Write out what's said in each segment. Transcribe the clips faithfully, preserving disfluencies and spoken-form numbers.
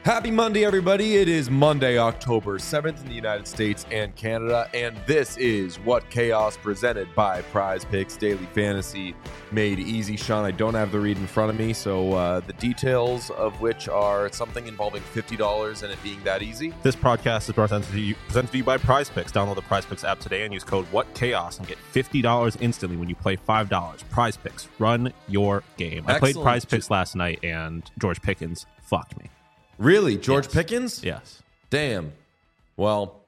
Happy Monday, everybody. It is Monday, October seventh in the United States and Canada, and this is What Chaos, presented by Prize Picks Daily Fantasy Made Easy. Sean, I don't have the read in front of me, so uh, the details of which are something involving fifty dollars and it being that easy. This podcast is presented to you, presented to you by Prize Picks. Download the Prize Picks app today and use code WhatChaos and get fifty dollars instantly when you play five dollars. Prize Picks. Run your game. I played Excellent. Prize Picks last night, and George Pickens fucked me. Really? George Yes. Pickens? Yes. Damn. Well,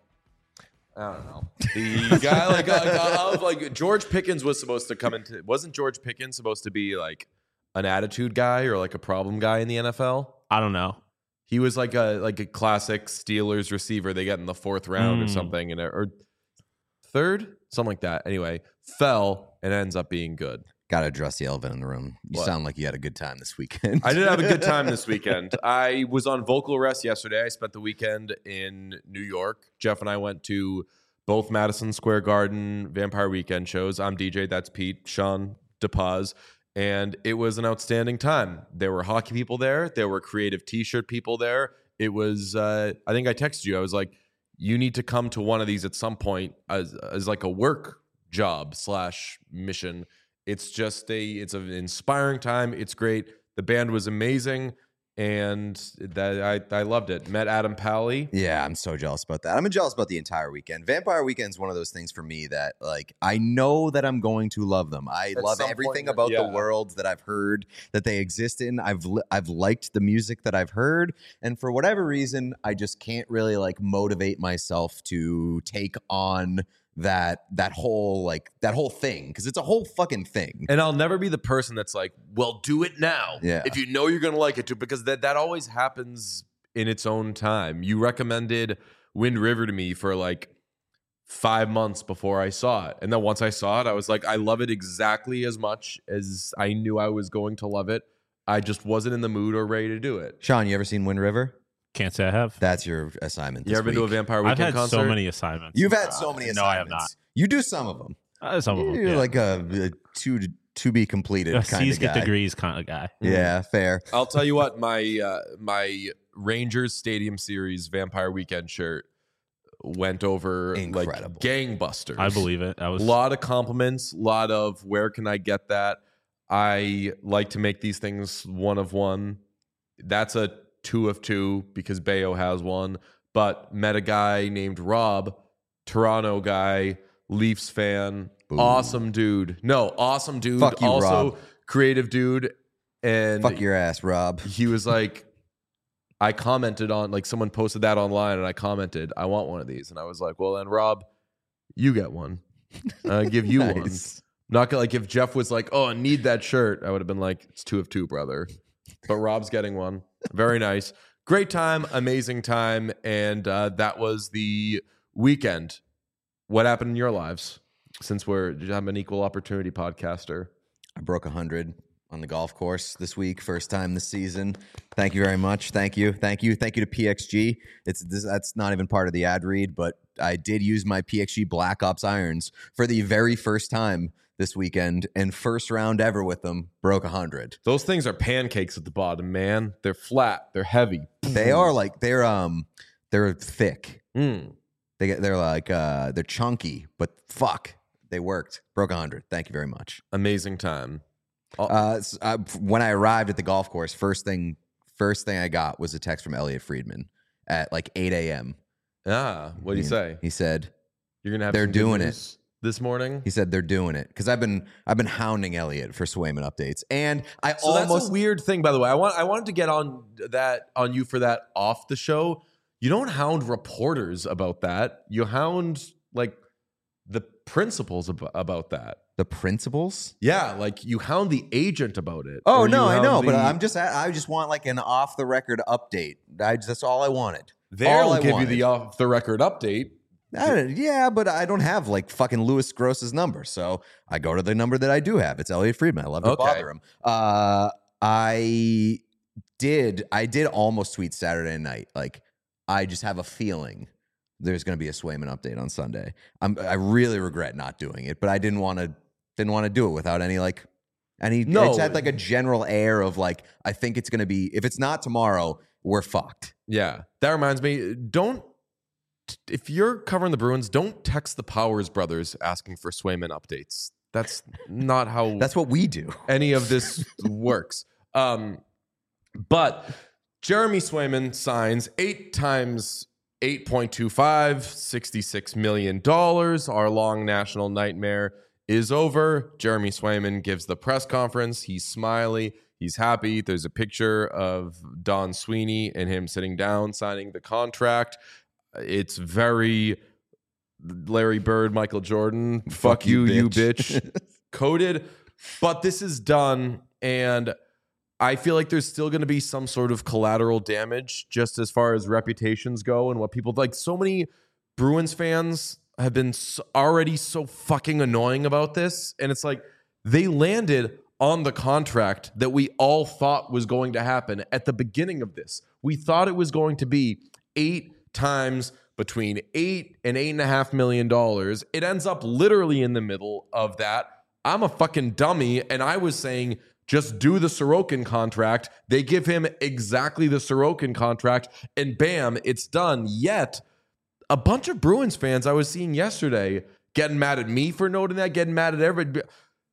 I don't know. The guy, like, I, I was like, George Pickens was supposed to come into, wasn't George Pickens supposed to be like an attitude guy or like a problem guy in the N F L? I don't know. He was like a like a classic Steelers receiver they get in the fourth round Mm. or something, and or third, something like that. Anyway, fell and ends up being good. Got to address the elephant in the room. You What? sound like you had a good time this weekend. I did have a good time this weekend. I was on vocal rest yesterday. I spent the weekend in New York. Jeff and I went to both Madison Square Garden Vampire Weekend shows. I'm D J. That's Pete. Sean DePaz. And it was an outstanding time. There were hockey people there. There were creative T-shirt people there. It was, uh, I think I texted you. I was like, you need to come to one of these at some point as, as like a work job slash mission. It's just a, it's an inspiring time. It's great. The band was amazing. And that I, I loved it. Met Adam Pally. Yeah, I'm so jealous about that. I'm jealous about the entire weekend. Vampire Weekend is one of those things for me that, like, I know that I'm going to love them. I At love some everything point, about yeah. the world that I've heard that they exist in. I've li- I've liked the music that I've heard, and for whatever reason, I just can't really like motivate myself to take on that that whole like that whole thing, because it's a whole fucking thing. And I'll never be the person that's like, well, do it now. Yeah. If you know you're going to like it too, because that, that always happens in its own time. You recommended Wind River to me for like five months before I saw it. And then once I saw it, I was like, I love it exactly as much as I knew I was going to love it. I just wasn't in the mood or ready to do it. Sean, you ever seen Wind River? Can't say I have. That's your assignment. You this ever been to a week. Vampire I've Weekend had concert? so many assignments. You've had so many Uh, assignments. No, I have not. You do some of them. Uh, some of them. You're yeah. like a, a to to be completed a kind C's of get guy. degrees kind of guy. Yeah, fair. I'll tell you what, my uh, my Rangers Stadium Series Vampire Weekend shirt went over Incredible. like gangbusters. I believe it. I A was lot of compliments, a lot of where can I get that? I like to make these things one of one. That's a two of two because Bayo has one. But met a guy named Rob, Toronto guy, Leafs fan, Boom. awesome dude. No, awesome dude. Fuck you, also Rob. creative dude. And Fuck your ass, Rob. he was like, I commented on, like, someone posted that online and I commented, I want one of these. And I was like, well, then, Rob, you get one. I'll give you one. Nice. Not gonna, like, if Jeff was like, oh, I need that shirt, I would have been like, it's two of two, brother. But Rob's getting one. Very nice. Great time, amazing time. And uh, that was the weekend. What happened in your lives since we're, I'm an equal opportunity podcaster? I broke one hundred on the golf course this week, first time this season. Thank you very much. Thank you. Thank you. Thank you to P X G. It's this, that's not even part of the ad read, but I did use my P X G Black Ops irons for the very first time this weekend, and first round ever with them, broke one hundred. Those things are pancakes at the bottom, man. They're flat. They're heavy. They are like they're um they're thick. Mm. They get they're like uh they're chunky, but fuck, they worked. Broke one hundred. Thank you very much. Amazing time. Uh, s- uh, when I arrived at the golf course, first thing first thing I got was a text from Elliot Friedman at like eight a.m. Ah, what do you say? He said You're gonna have They're some good doing it. news this morning. he said they're doing it because I've been I've been hounding Elliot for Swayman updates, and I So almost that's a weird thing, by the way. I want I wanted to get on that on you for that off the show. You don't hound reporters about that. You hound like the principals ab- about that. the principals. Yeah, like you hound the agent about it. Oh Or no, you I hound know, but the- I'm just I just want like an off the record update. I just, that's all I wanted. they'll all I give wanted. you the off the record update. I don't- yeah, but I don't have like fucking Louis Gross's number, so I go to the number that I do have. It's Elliot Friedman. I love to Okay. bother him. Uh, I did. I did almost tweet Saturday night. Like, I just have a feeling there's going to be a Swayman update on Sunday. I'm. I really regret not doing it, but I didn't want to. Didn't want to do it without any like. Any. No. It's had like a general air of like I think it's going to be. If it's not tomorrow, we're fucked. Yeah. That reminds me, don't, if you're covering the Bruins, don't text the Powers brothers asking for Swayman updates. That's not how That's what we do. any of this works. Um, but Jeremy Swayman signs eight times eight point two five, sixty-six million dollars. Our long national nightmare is over. Jeremy Swayman gives the press conference. He's smiley. He's happy. There's a picture of Don Sweeney and him sitting down signing the contract. It's very Larry Bird, Michael Jordan. Fuck, Fuck you, you bitch. you bitch. Coded. But this is done. And I feel like there's still going to be some sort of collateral damage just as far as reputations go and what people like. So many Bruins fans have been so, already so fucking annoying about this. And it's like they landed on the contract that we all thought was going to happen at the beginning of this. We thought it was going to be eight times between eight and eight and a half million dollars. It ends up literally in the middle of that. I'm a fucking dummy. And I was saying, just do the Sorokin contract. They give him exactly the Sorokin contract, and bam, it's done. Yet, a bunch of Bruins fans I was seeing yesterday getting mad at me for noting that, getting mad at everybody.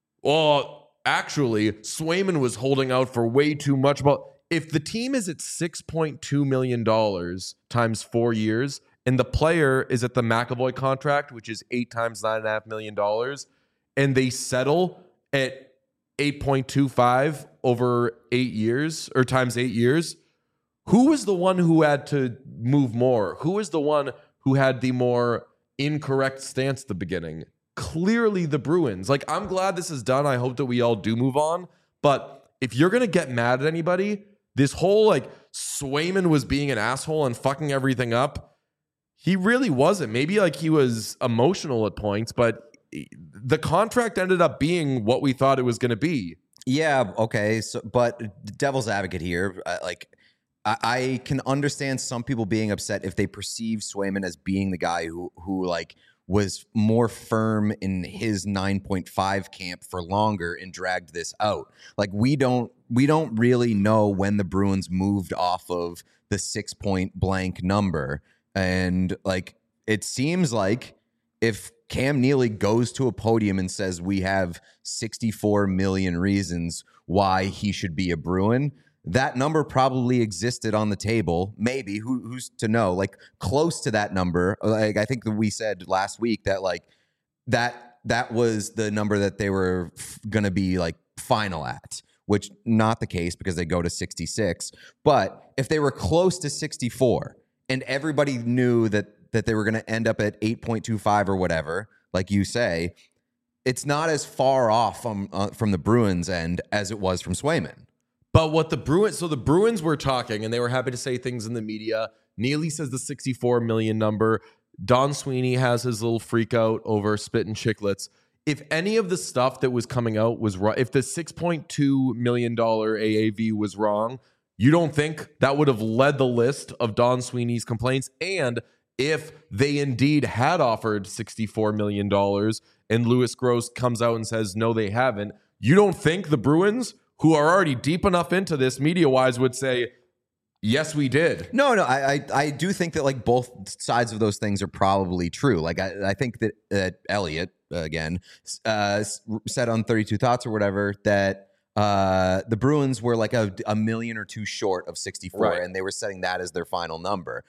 Well, actually, Swayman was holding out for way too much. But if the team is at six point two million dollars times four years, and the player is at the McAvoy contract, which is eight times nine point five million dollars, and they settle at eight point two five over eight years or times eight years, who was the one who had to move more? Who was the one who had the more incorrect stance at the beginning? Clearly the Bruins. Like, I'm glad this is done. I hope that we all do move on. But if you're going to get mad at anybody, this whole like Swayman was being an asshole and fucking everything up, he really wasn't. Maybe like he was emotional at points, but the contract ended up being what we thought it was going to be. Yeah, okay. So, but devil's advocate here, uh, like I, I can understand some people being upset if they perceive Swayman as being the guy who who like was more firm in his nine point five camp for longer and dragged this out. Like we don't we don't really know when the Bruins moved off of the six point blank number, and like it seems like if Cam Neely goes to a podium and says we have sixty-four million reasons why he should be a Bruin, that number probably existed on the table. Maybe, who, who's to know? Like close to that number. Like I think that we said last week that like that that was the number that they were f- going to be like final at, which not the case because they go to sixty-six. But if they were close to sixty-four and everybody knew that that they were going to end up at eight point two five or whatever, like you say, it's not as far off from uh, from the Bruins end as it was from Swayman. But what the Bruins, so the Bruins were talking and they were happy to say things in the media. Neely says the sixty-four million number. Don Sweeney has his little freak out over spit and chiclets. If any of the stuff that was coming out was wrong, if the six point two million dollars A A V was wrong, you don't think that would have led the list of Don Sweeney's complaints? And if they indeed had offered sixty-four million dollars and Louis Gross comes out and says, no, they haven't, you don't think the Bruins, who are already deep enough into this media-wise, would say, yes, we did? No, no, I, I, I do think that like both sides of those things are probably true. Like I, I think that uh, Elliot uh, again uh, said on thirty-two Thoughts or whatever that uh, the Bruins were like a, a million or two short of sixty-four, right, and they were setting that as their final number.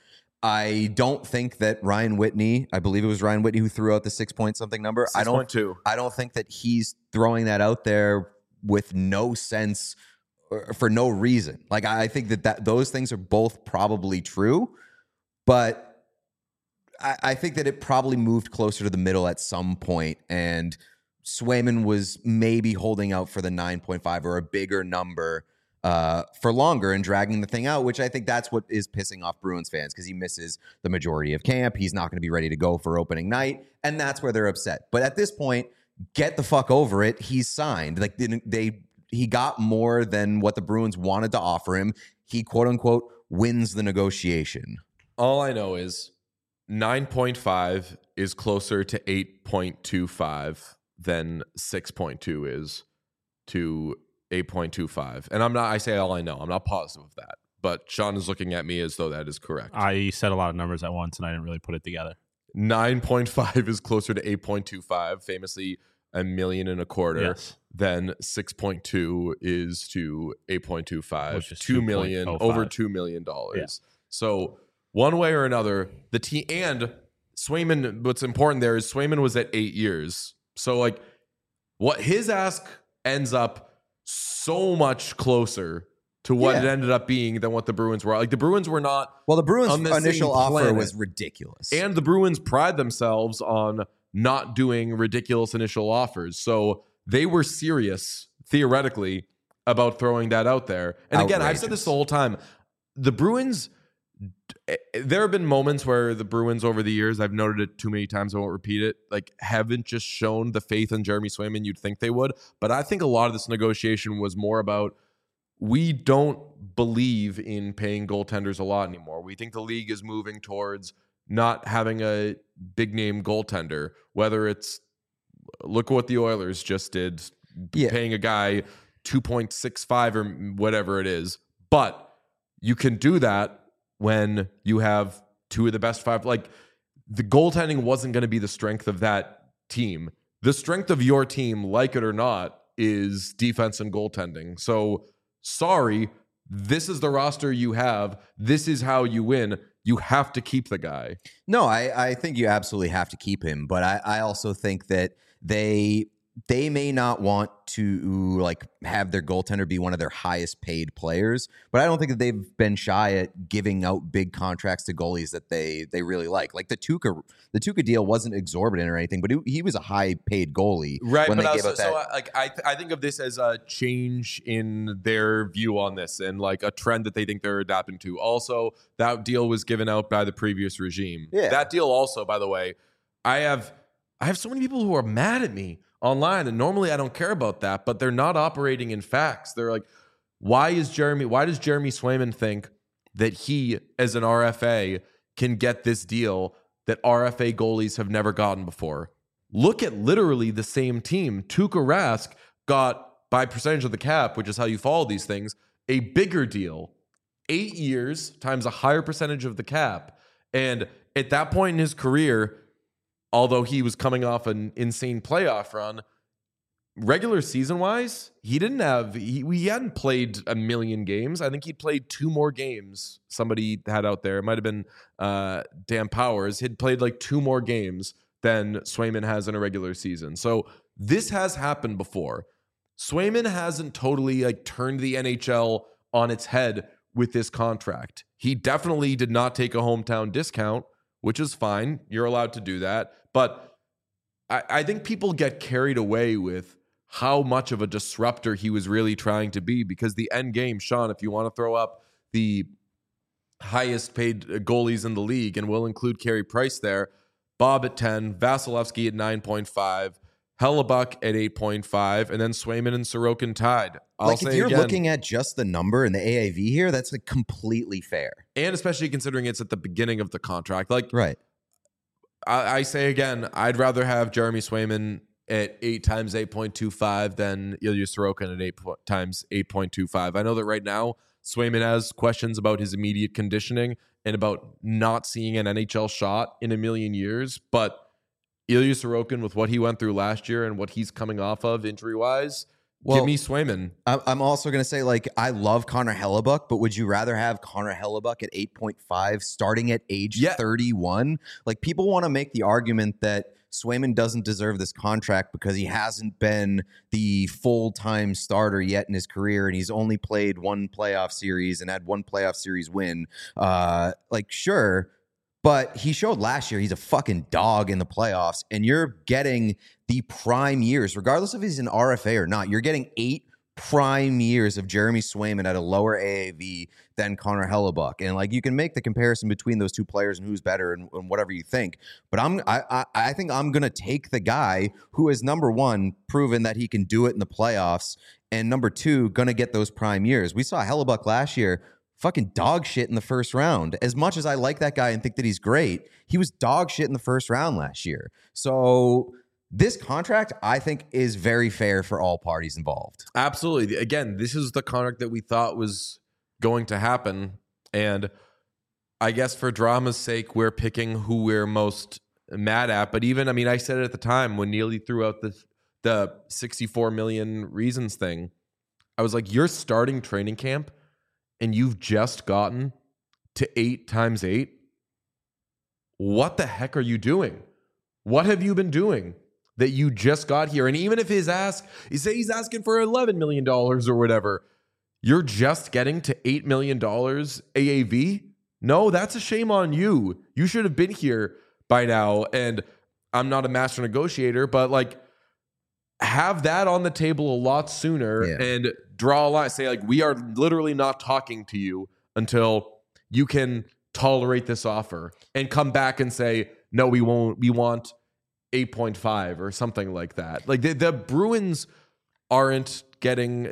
I don't think that Ryan Whitney, I believe it was Ryan Whitney who threw out the six point something number. I don't, I don't think that he's throwing that out there with no sense or for no reason. Like I think that, that those things are both probably true, but I, I think that it probably moved closer to the middle at some point, and Swayman was maybe holding out for the nine point five or a bigger number uh, for longer and dragging the thing out, which I think that's what is pissing off Bruins fans because he misses the majority of camp. He's not going to be ready to go for opening night, and that's where they're upset. But at this point, get the fuck over it. He's signed. Like they, they he got more than what the Bruins wanted to offer him. He, quote unquote, wins the negotiation. All I know is nine point five is closer to eight point two five than six point two is to eight point two five. And I'm not, I say all I know. I'm not positive of that. but Sean is looking at me as though that is correct. I said a lot of numbers at once, and I didn't really put it together. nine point five is closer to eight point two five, famously a million and a quarter. Yes. Then six point two is to eight point two five, Which is two million, two point oh five. over two million dollars. Yeah. So one way or another, the team and Swayman, what's important there is Swayman was at eight years. So like what his ask ends up so much closer to what Yeah. it ended up being than what the Bruins were. Like the Bruins were not Well, the Bruins' on the same initial offer planet. was ridiculous. And the Bruins pride themselves on not doing ridiculous initial offers. So they were serious, theoretically, about throwing that out there. And again, I've said this Outrageous. the whole time. The Bruins, there have been moments where the Bruins over the years, I've noted it too many times, I won't repeat it, like haven't just shown the faith in Jeremy Swayman you'd think they would. But I think a lot of this negotiation was more about we don't believe in paying goaltenders a lot anymore. We think the league is moving towards not having a big name goaltender, whether it's look what the Oilers just did, Yeah. paying a guy two point six five or whatever it is. But you can do that when you have two of the best five. Like the goaltending wasn't going to be the strength of that team. The strength of your team, like it or not, is defense and goaltending. So sorry, this is the roster you have. This is how you win. You have to keep the guy. No, I, I think you absolutely have to keep him, but I, I also think that they they may not want to like have their goaltender be one of their highest paid players, but I don't think that they've been shy at giving out big contracts to goalies that they they really like. Like the Tuukka the Tuukka deal wasn't exorbitant or anything, but he, he was a high paid goalie Right, when but they also, gave out that. so I- like I, th- I think of this as a change in their view on this, and like a trend that they think they're adapting to. Also, that deal was given out by the previous regime. Yeah. That deal, also, by the way, I have I have so many people who are mad at me online, and normally I don't care about that, but they're not operating in facts. They're like, why is Jeremy? Why does Jeremy Swayman think that he, as an R F A, can get this deal that R F A goalies have never gotten before? Look at literally the same team. Tuukka Rask got, by percentage of the cap, which is how you follow these things, a bigger deal. Eight years times a higher percentage of the cap. And at that point in his career, although he was coming off an insane playoff run, regular season wise, he didn't have, he, he hadn't played a million games. I think he played two more games. Somebody had out there, it might have been uh, Dan Powers. He'd played like two more games than Swayman has in a regular season. So this has happened before. Swayman hasn't totally like turned the N H L on its head with this contract. He definitely did not take a hometown discount, which is fine. You're allowed to do that. But I, I think people get carried away with how much of a disruptor he was really trying to be, because the end game, Sean, if you want to throw up the highest paid goalies in the league, and we'll include Carey Price there, Bob at ten, Vasilevsky at nine point five, Hellebuck at eight point five, and then Swayman and Sorokin tied. I'll like say if you're again, looking at just the number and the A A V here, that's like completely fair. and especially considering it's at the beginning of the contract. Like Right. I, I say again, I'd rather have Jeremy Swayman at eight times eight point two five than Ilya Sorokin at eight po- times eight point two five. I know that right now Swayman has questions about his immediate conditioning and about not seeing an N H L shot in a million years, but Ilya Sorokin, with what he went through last year and what he's coming off of injury-wise, Well, give me Swayman. I- I'm also going to say, like, I love Connor Hellebuck, but would you rather have Connor Hellebuck at eight point five starting at age Yeah. thirty-one? Like, people want to make the argument that Swayman doesn't deserve this contract because he hasn't been the full-time starter yet in his career, and he's only played one playoff series and had one playoff series win. Uh, like, sure, but he showed last year he's a fucking dog in the playoffs, and you're getting the prime years, regardless if he's an R F A or not. You're getting eight prime years of Jeremy Swayman at a lower A A V than Connor Hellebuck. And like, you can make the comparison between those two players and who's better and, and whatever you think. But I'm I I, I think I'm gonna take the guy who is, number one, proven that he can do it in the playoffs, and number two, gonna get those prime years. We saw Hellebuck last year. Fucking dog shit in the first round. As much as I like that guy and think that he's great, he was dog shit in the first round last year. So this contract, I think, is very fair for all parties involved. Absolutely. Again, this is the contract that we thought was going to happen. And I guess for drama's sake, we're picking who we're most mad at. But even, I mean, I said it at the time when Neely threw out the the sixty-four million reasons thing. I was like, you're starting training camp and you've just gotten to eight times eight. What the heck are you doing? What have you been doing that you just got here? And even if his ask, you say he's asking for eleven million dollars or whatever, you're just getting to eight million dollars A A V? No, that's a shame on you. You should have been here by now. And I'm not a master negotiator, but like, have that on the table a lot sooner yeah. and draw a line. Say, like, we are literally not talking to you until you can tolerate this offer, and come back and say, no, we won't. We want eight point five or something like that. Like, the, the Bruins aren't getting,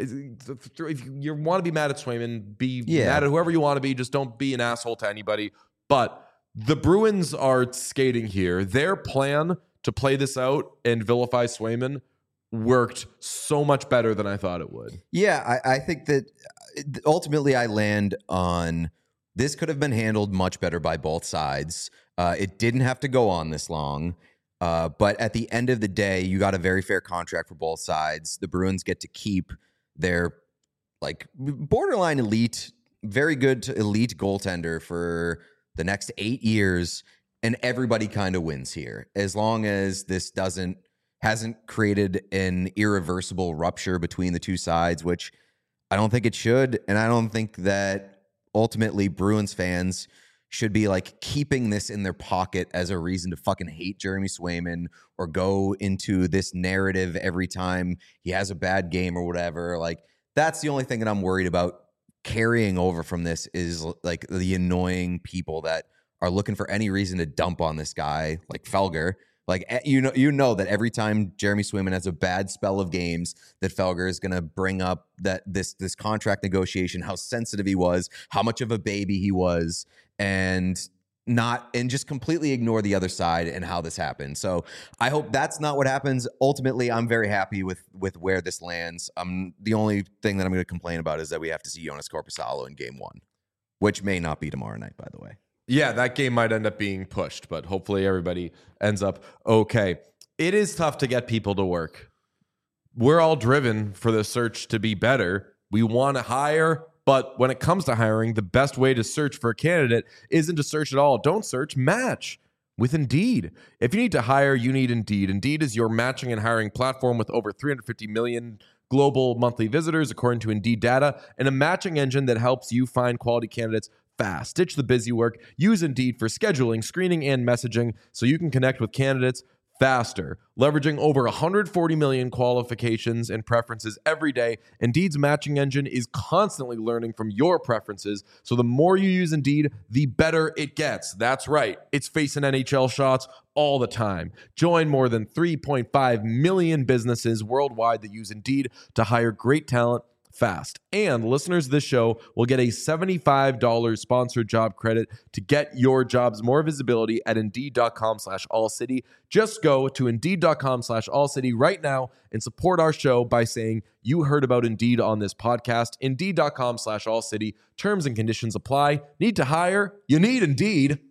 if you want to be mad at Swayman, be yeah. mad at whoever you want to be. Just don't be an asshole to anybody. But the Bruins are skating here. Their plan to play this out and vilify Swayman worked so much better than I thought it would. Yeah, I, I think that ultimately I land on this could have been handled much better by both sides. Uh, it didn't have to go on this long. Uh, but at the end of the day, you got a very fair contract for both sides. The Bruins get to keep their like borderline elite, very good to elite goaltender for the next eight years. And everybody kind of wins here as long as this doesn't hasn't created an irreversible rupture between the two sides, which I don't think it should. And I don't think that ultimately Bruins fans should be like keeping this in their pocket as a reason to fucking hate Jeremy Swayman or go into this narrative every time he has a bad game or whatever. Like, that's the only thing that I'm worried about carrying over from this is like the annoying people that are looking for any reason to dump on this guy like Felger. Like, you know, you know that every time Jeremy Swayman has a bad spell of games, that Felger is going to bring up that this this contract negotiation, how sensitive he was, how much of a baby he was, and not and just completely ignore the other side and how this happened. So I hope that's not what happens. Ultimately, I'm very happy with with where this lands. Um, the only thing that I'm going to complain about is that we have to see Jonas Korpisalo in game one, which may not be tomorrow night, by the way. Yeah, that game might end up being pushed, but hopefully everybody ends up okay. It is tough to get people to work. We're all driven for the search to be better. We want to hire, but when it comes to hiring, the best way to search for a candidate isn't to search at all. Don't search, match with Indeed. If you need to hire, you need Indeed. Indeed is your matching and hiring platform with over three hundred fifty million global monthly visitors, according to Indeed data, and a matching engine that helps you find quality candidates fast. Ditch the busy work. Use Indeed for scheduling, screening, and messaging so you can connect with candidates faster. Leveraging over one hundred forty million qualifications and preferences every day, Indeed's matching engine is constantly learning from your preferences, so the more you use Indeed, the better it gets. That's right. It's facing N H L shots all the time. Join more than three point five million businesses worldwide that use Indeed to hire great talent fast. And listeners of this show will get a seventy-five dollars sponsored job credit to get your jobs more visibility at Indeed.com slash All City. Just go to Indeed.com slash All City right now and support our show by saying you heard about Indeed on this podcast. Indeed.com slash All City. Terms and conditions apply. Need to hire? You need Indeed.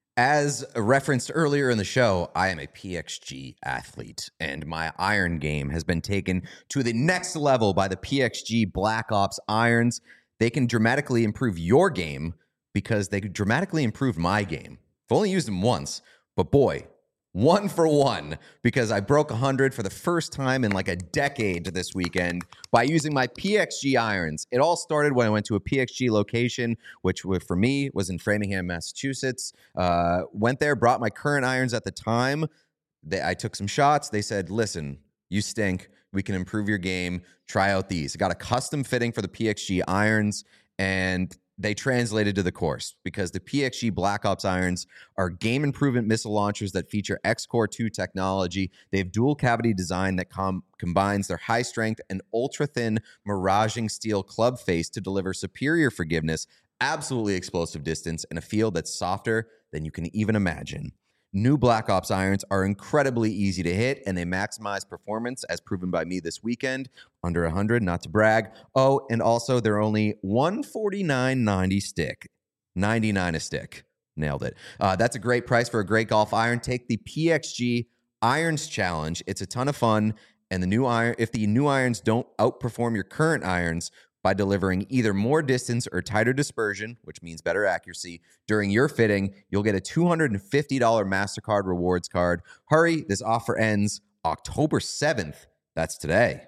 As referenced earlier in the show, I am a P X G athlete, and my iron game has been taken to the next level by the P X G Black Ops irons. They can dramatically improve your game because they could dramatically improve my game. I've only used them once, but boy, one for one, because I broke one hundred for the first time in like a decade this weekend by using my P X G irons. It all started when I went to a P X G location, which for me was in Framingham, Massachusetts. Uh, went there, brought my current irons at the time. They, I took some shots. They said, listen, you stink. We can improve your game. Try out these. I got a custom fitting for the P X G irons, and they translated to the course because the P X G Black Ops irons are game improvement missile launchers that feature X Core two technology. They have dual cavity design that com- combines their high strength and ultra thin miraging steel club face to deliver superior forgiveness, absolutely explosive distance, and a feel that's softer than you can even imagine. New Black Ops irons are incredibly easy to hit, and they maximize performance, as proven by me this weekend. Under one hundred, not to brag. Oh, and also they're only one forty-nine ninety stick. ninety-nine a stick. Nailed it. Uh, that's a great price for a great golf iron. Take the P X G Irons Challenge. It's a ton of fun. And the new iron, if the new irons don't outperform your current irons by delivering either more distance or tighter dispersion, which means better accuracy, during your fitting, you'll get a two hundred fifty dollars MasterCard rewards card. Hurry, this offer ends October seventh. That's today.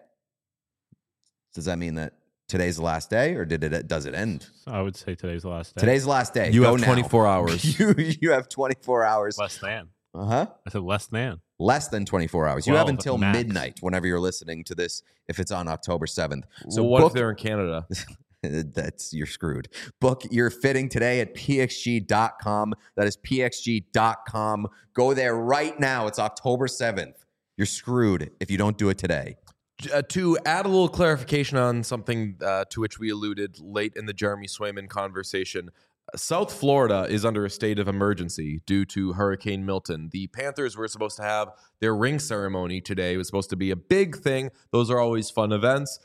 Does that mean that today's the last day, or did it? Does it end? I would say today's the last day. Today's the last day. You Go have now. twenty-four hours. you you have twenty-four hours. Less than. Uh huh. I said less than. Less than twenty-four hours. You Well, have until max. midnight whenever you're listening to this, if it's on October seventh. So So what book, if they're in Canada? that's you're screwed. Book your fitting today at p x g dot com. That is p x g dot com. Go there right now. It's October seventh. You're screwed if you don't do it today. Uh, to add a little clarification on something uh, to which we alluded late in the Jeremy Swayman conversation, South Florida is under a state of emergency due to Hurricane Milton. The Panthers were supposed to have their ring ceremony today. It was supposed to be a big thing. Those are always fun events,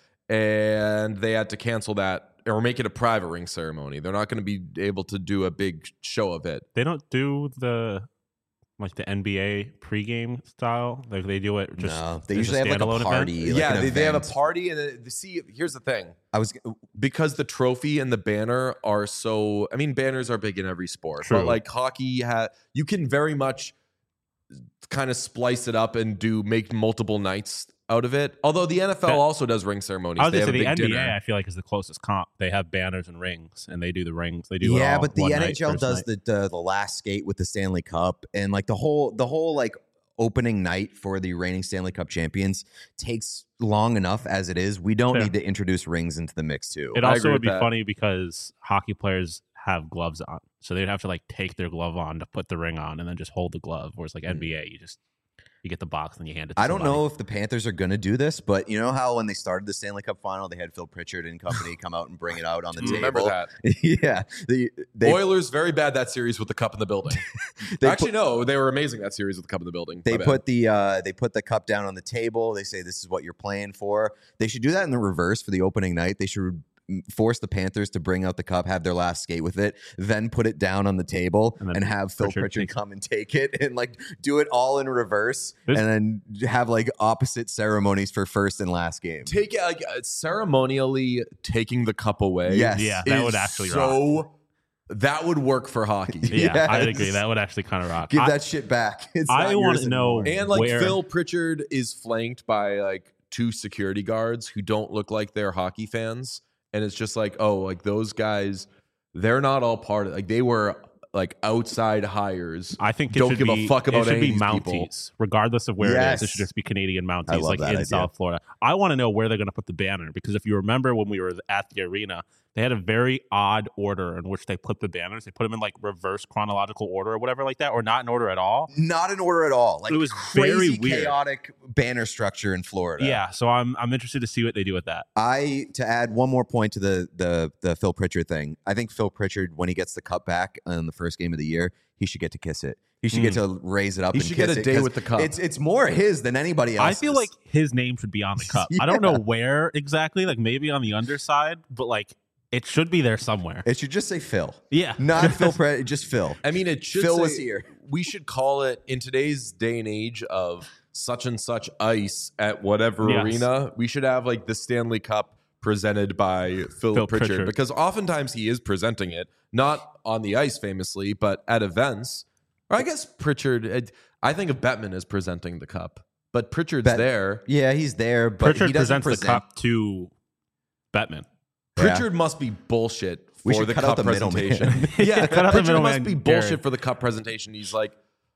and they had to cancel that or make it a private ring ceremony. They're not going to be able to do a big show of it. They don't do the like the N B A pregame style. Like they do it just. No, they as usually have like a standalone party. event? like yeah, an they, they have a event. party, and then, see, here's the thing. I was Because the trophy and the banner are so, I mean, banners are big in every sport, True. but like hockey, ha- you can very much kind of splice it up and do make multiple nights out of it. Although the N F L That- also does ring ceremonies. I was They gonna have say a the big N B A. dinner. I feel like is the closest comp. They have banners and rings, and they do the rings. They do it yeah, all but the one N night, H L first does night. the, the the last skate with the Stanley Cup, and like the whole the whole like opening night for the reigning Stanley Cup champions takes long enough as it is. We don't Fair. need to introduce rings into the mix too. It I also agree would with be that. funny because hockey players have gloves on, so they'd have to like take their glove on to put the ring on, and then just hold the glove. Whereas like N B A, you just you get the box and you hand it. to I don't somebody. know if the Panthers are going to do this, but you know how when they started the Stanley Cup final, they had Phil Pritchard and company come out and bring it out on the Remember table. that. yeah, the, they Oilers very bad that series with the cup in the building. they Actually, put, no, they were amazing that series with the cup in the building. they My bad. put the uh, they put the cup down on the table. They say this is what you're playing for. They should do that in the reverse for the opening night. They should force the Panthers to bring out the cup, have their last skate with it, then put it down on the table And and, then have Phil Pritchard Pritchard takes it. come and take it and like do it all in reverse There's- and then have like opposite ceremonies for first and last game. take it like uh, ceremonially taking the cup away. Yes. Yeah, that is would actually so. rock. That would work for hockey. Yeah, I would Yes. agree. That would actually kind of rock. Give I- that shit back. It's I not wanna yours know- anymore. And like Where- Phil Pritchard is flanked by like two security guards who don't look like they're hockey fans. And it's just like, oh, like those guys, they're not all part of like they were like outside hires. I think it don't should give be, a fuck about it should any be of these people. Mounties, regardless of where it is. It Yes. should just be Canadian I Mounties, love like that in idea. South Florida. I want to know where they're going to put the banner because if you remember when we were at the arena, they had a very odd order in which they put the banners. They put them in like reverse chronological order or whatever like that, or not in order at all. Not in order at all. Like It was crazy very weird. chaotic banner structure in Florida. Yeah, so I'm I'm interested to see what they do with that. I to add one more point to the the the Phil Pritchard thing. I think Phil Pritchard, when he gets the cup back in the first game of the year, he should get to kiss it. He should get to raise it up. He and should kiss get a it day 'cause with the cup. It's it's more his than anybody else. I feel like his name should be on the cup. I don't know where exactly, like maybe on the underside, but like it should be there somewhere. it should just say Phil, Yeah, not Phil Pritchard, just Phil. I mean, it should Phil say- was here. We should call it in today's day and age of such and such ice at whatever Yes. arena. We should have like the Stanley Cup presented by Phil, Phil Pritchard, Pritchard. because oftentimes he is presenting it not on the ice famously, but at events. Or I guess Pritchard. I think of Bettman as presenting the cup, but Pritchard's Bet- there. Yeah, he's there, but Pritchard he doesn't presents present. the cup to Bettman. Yeah. Pritchard must be bullshit We for should the cut out cup the middleman. presentation. yeah, Cut out the Pritchard must middleman, be Gary. bullshit for the cup presentation. He's like,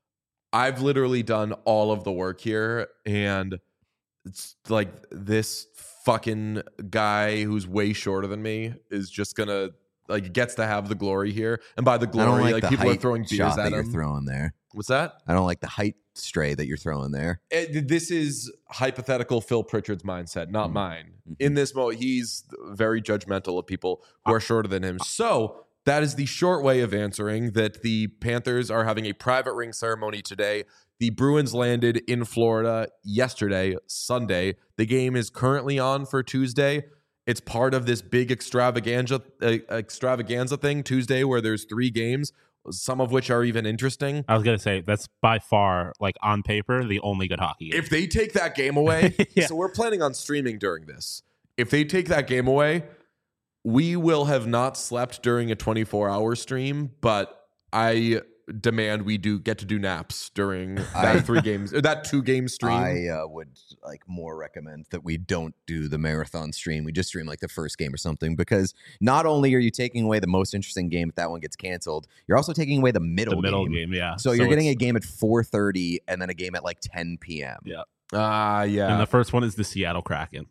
I've literally done all of the work here, and it's like this fucking guy who's way shorter than me is just gonna like gets to have the glory here. And by the I glory, don't like, like, the people are height throwing beers shot at that you're him. throwing there. What's that? I don't like the height stray that you're throwing there. It- this is hypothetical Phil Pritchard's mindset, not Mhm. mine. Mhm. In this moment, he's very judgmental of people who are shorter than him. So that is the short way of answering that the Panthers are having a private ring ceremony today. The Bruins landed in Florida yesterday, Sunday. The game is currently on for Tuesday. It's part of this big extravaganza uh, extravaganza thing Tuesday where there's three games, some of which are even interesting. I was going to say, that's by far, like on paper, the only good hockey game. If they take that game away, Yeah. so we're planning on streaming during this. If they take that game away, we will have not slept during a twenty-four hour stream, but I demand we do get to do naps during that I- three games or that two game stream. I uh, would like more recommend that we don't do the marathon stream. We just stream like the first game or something, because not only are you taking away the most interesting game if that one gets canceled, you're also taking away the middle the middle game. game, yeah. So, you're getting it's- a game at four thirty and then a game at like ten p.m. Yeah. Ah, yeah. And the first one is the Seattle Kraken.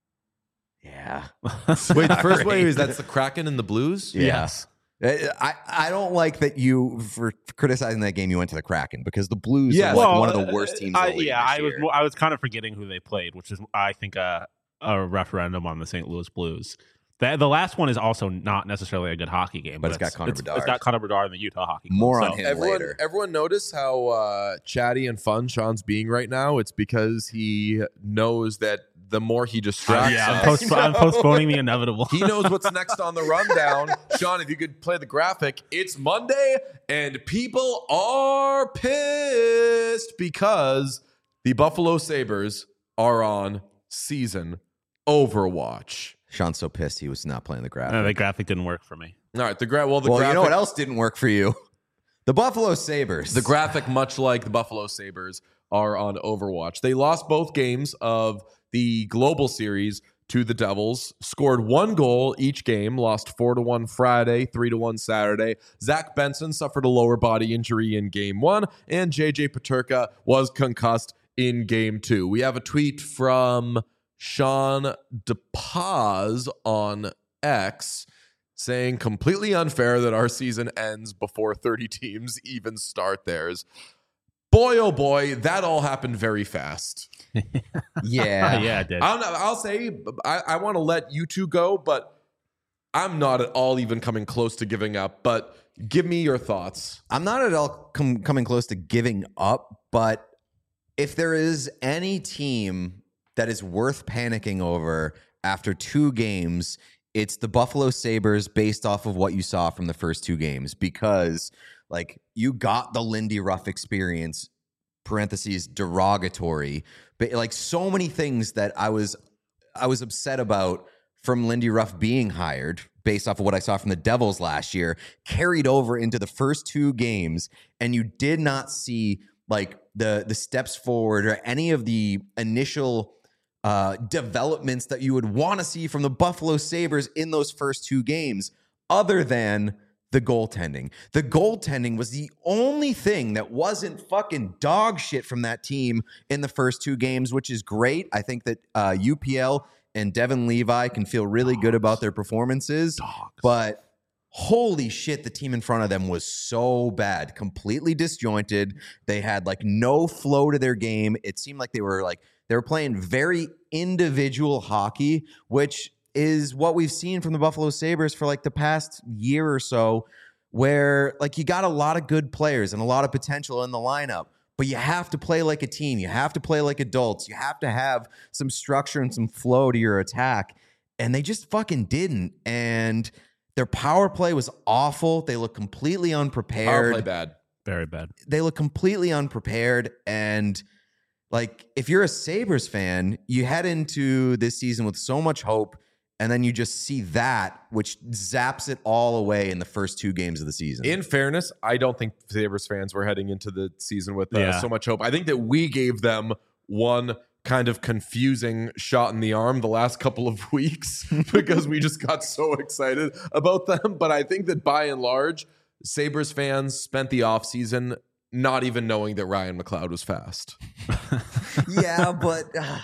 Yeah. Wait, the first Sorry. way is that's the Kraken and the Blues? Yeah. Yes. I, I don't like that you, for criticizing that game, you went to the Kraken, because the Blues Yes. are like Well, one of the worst teams I, in the league yeah, this I was year. mo- I was kind of forgetting who they played, which is I think a a referendum on the Saint Louis Blues. The, the last one is also not necessarily a good hockey game, But it's got Connor it's, Bedard. it's got Connor Bedard in the Utah hockey club. More so- on him Everyone, later. everyone notice how uh, chatty and fun Sean's being right now? It's because he knows that the more he Uh, distracts yeah, I'm, us, post- I'm postponing the inevitable. he knows what's next on the rundown. Sean, if you could play the graphic, it's Monday and people are pissed because the Buffalo Sabres are on season Overwatch. Sean's so pissed he was not playing the graphic. Uh, the graphic didn't work for me. All right, the gra- well, the well, graphic, you know what else didn't work for you? The Buffalo Sabres. the graphic, much like the Buffalo Sabres, are on Overwatch. They lost both games of the Global Series to the Devils, scored one goal each game, lost four to one Friday, three to one Saturday. Zach Benson suffered a lower body injury in game one, and J J Peterka was concussed in game two. We have a tweet from Sean DePaz on X saying, completely unfair that our season ends before thirty teams even start theirs. Boy, oh boy, that all happened very fast. yeah. yeah, it did. I'll, I'll say, I, I want to let you two go, but I'm not at all even coming close to giving up. But give me your thoughts. I'm not at all com- coming close to giving up, but if there is any team that is worth panicking over after two games, it's the Buffalo Sabres based off of what you saw from the first two games, because like you got the Lindy Ruff experience, parentheses derogatory, but like so many things that I was I was upset about from Lindy Ruff being hired based off of what I saw from the Devils last year carried over into the first two games, and you did not see like the the steps forward or any of the initial uh, developments that you would want to see from the Buffalo Sabres in those first two games, other than the goaltending. The goaltending was the only thing that wasn't fucking dog shit from that team in the first two games, which is great. I think that uh, U P L and Devin Levi can feel really Dogs. good about their performances, Dogs. but holy shit, the team in front of them was so bad, completely disjointed. They had like no flow to their game. It seemed like they were like, they were playing very individual hockey, which is what we've seen from the Buffalo Sabres for like the past year or so, where like you got a lot of good players and a lot of potential in the lineup, but you have to play like a team. You have to play like adults. You have to have some structure and some flow to your attack. And they just fucking didn't. And their power play was awful. They look completely Power unprepared. play bad. Very bad. They look completely unprepared. And like, if you're a Sabres fan, you head into this season with so much hope, and then you just see that, which zaps it all away in the first two games of the season. In fairness, I don't think Sabres fans were heading into the season with uh, Yeah. so much hope. I think that we gave them one kind of confusing shot in the arm the last couple of weeks because we just got so excited about them. But I think that by and large, Sabres fans spent the offseason not even knowing that Ryan McLeod was fast. yeah, but uh,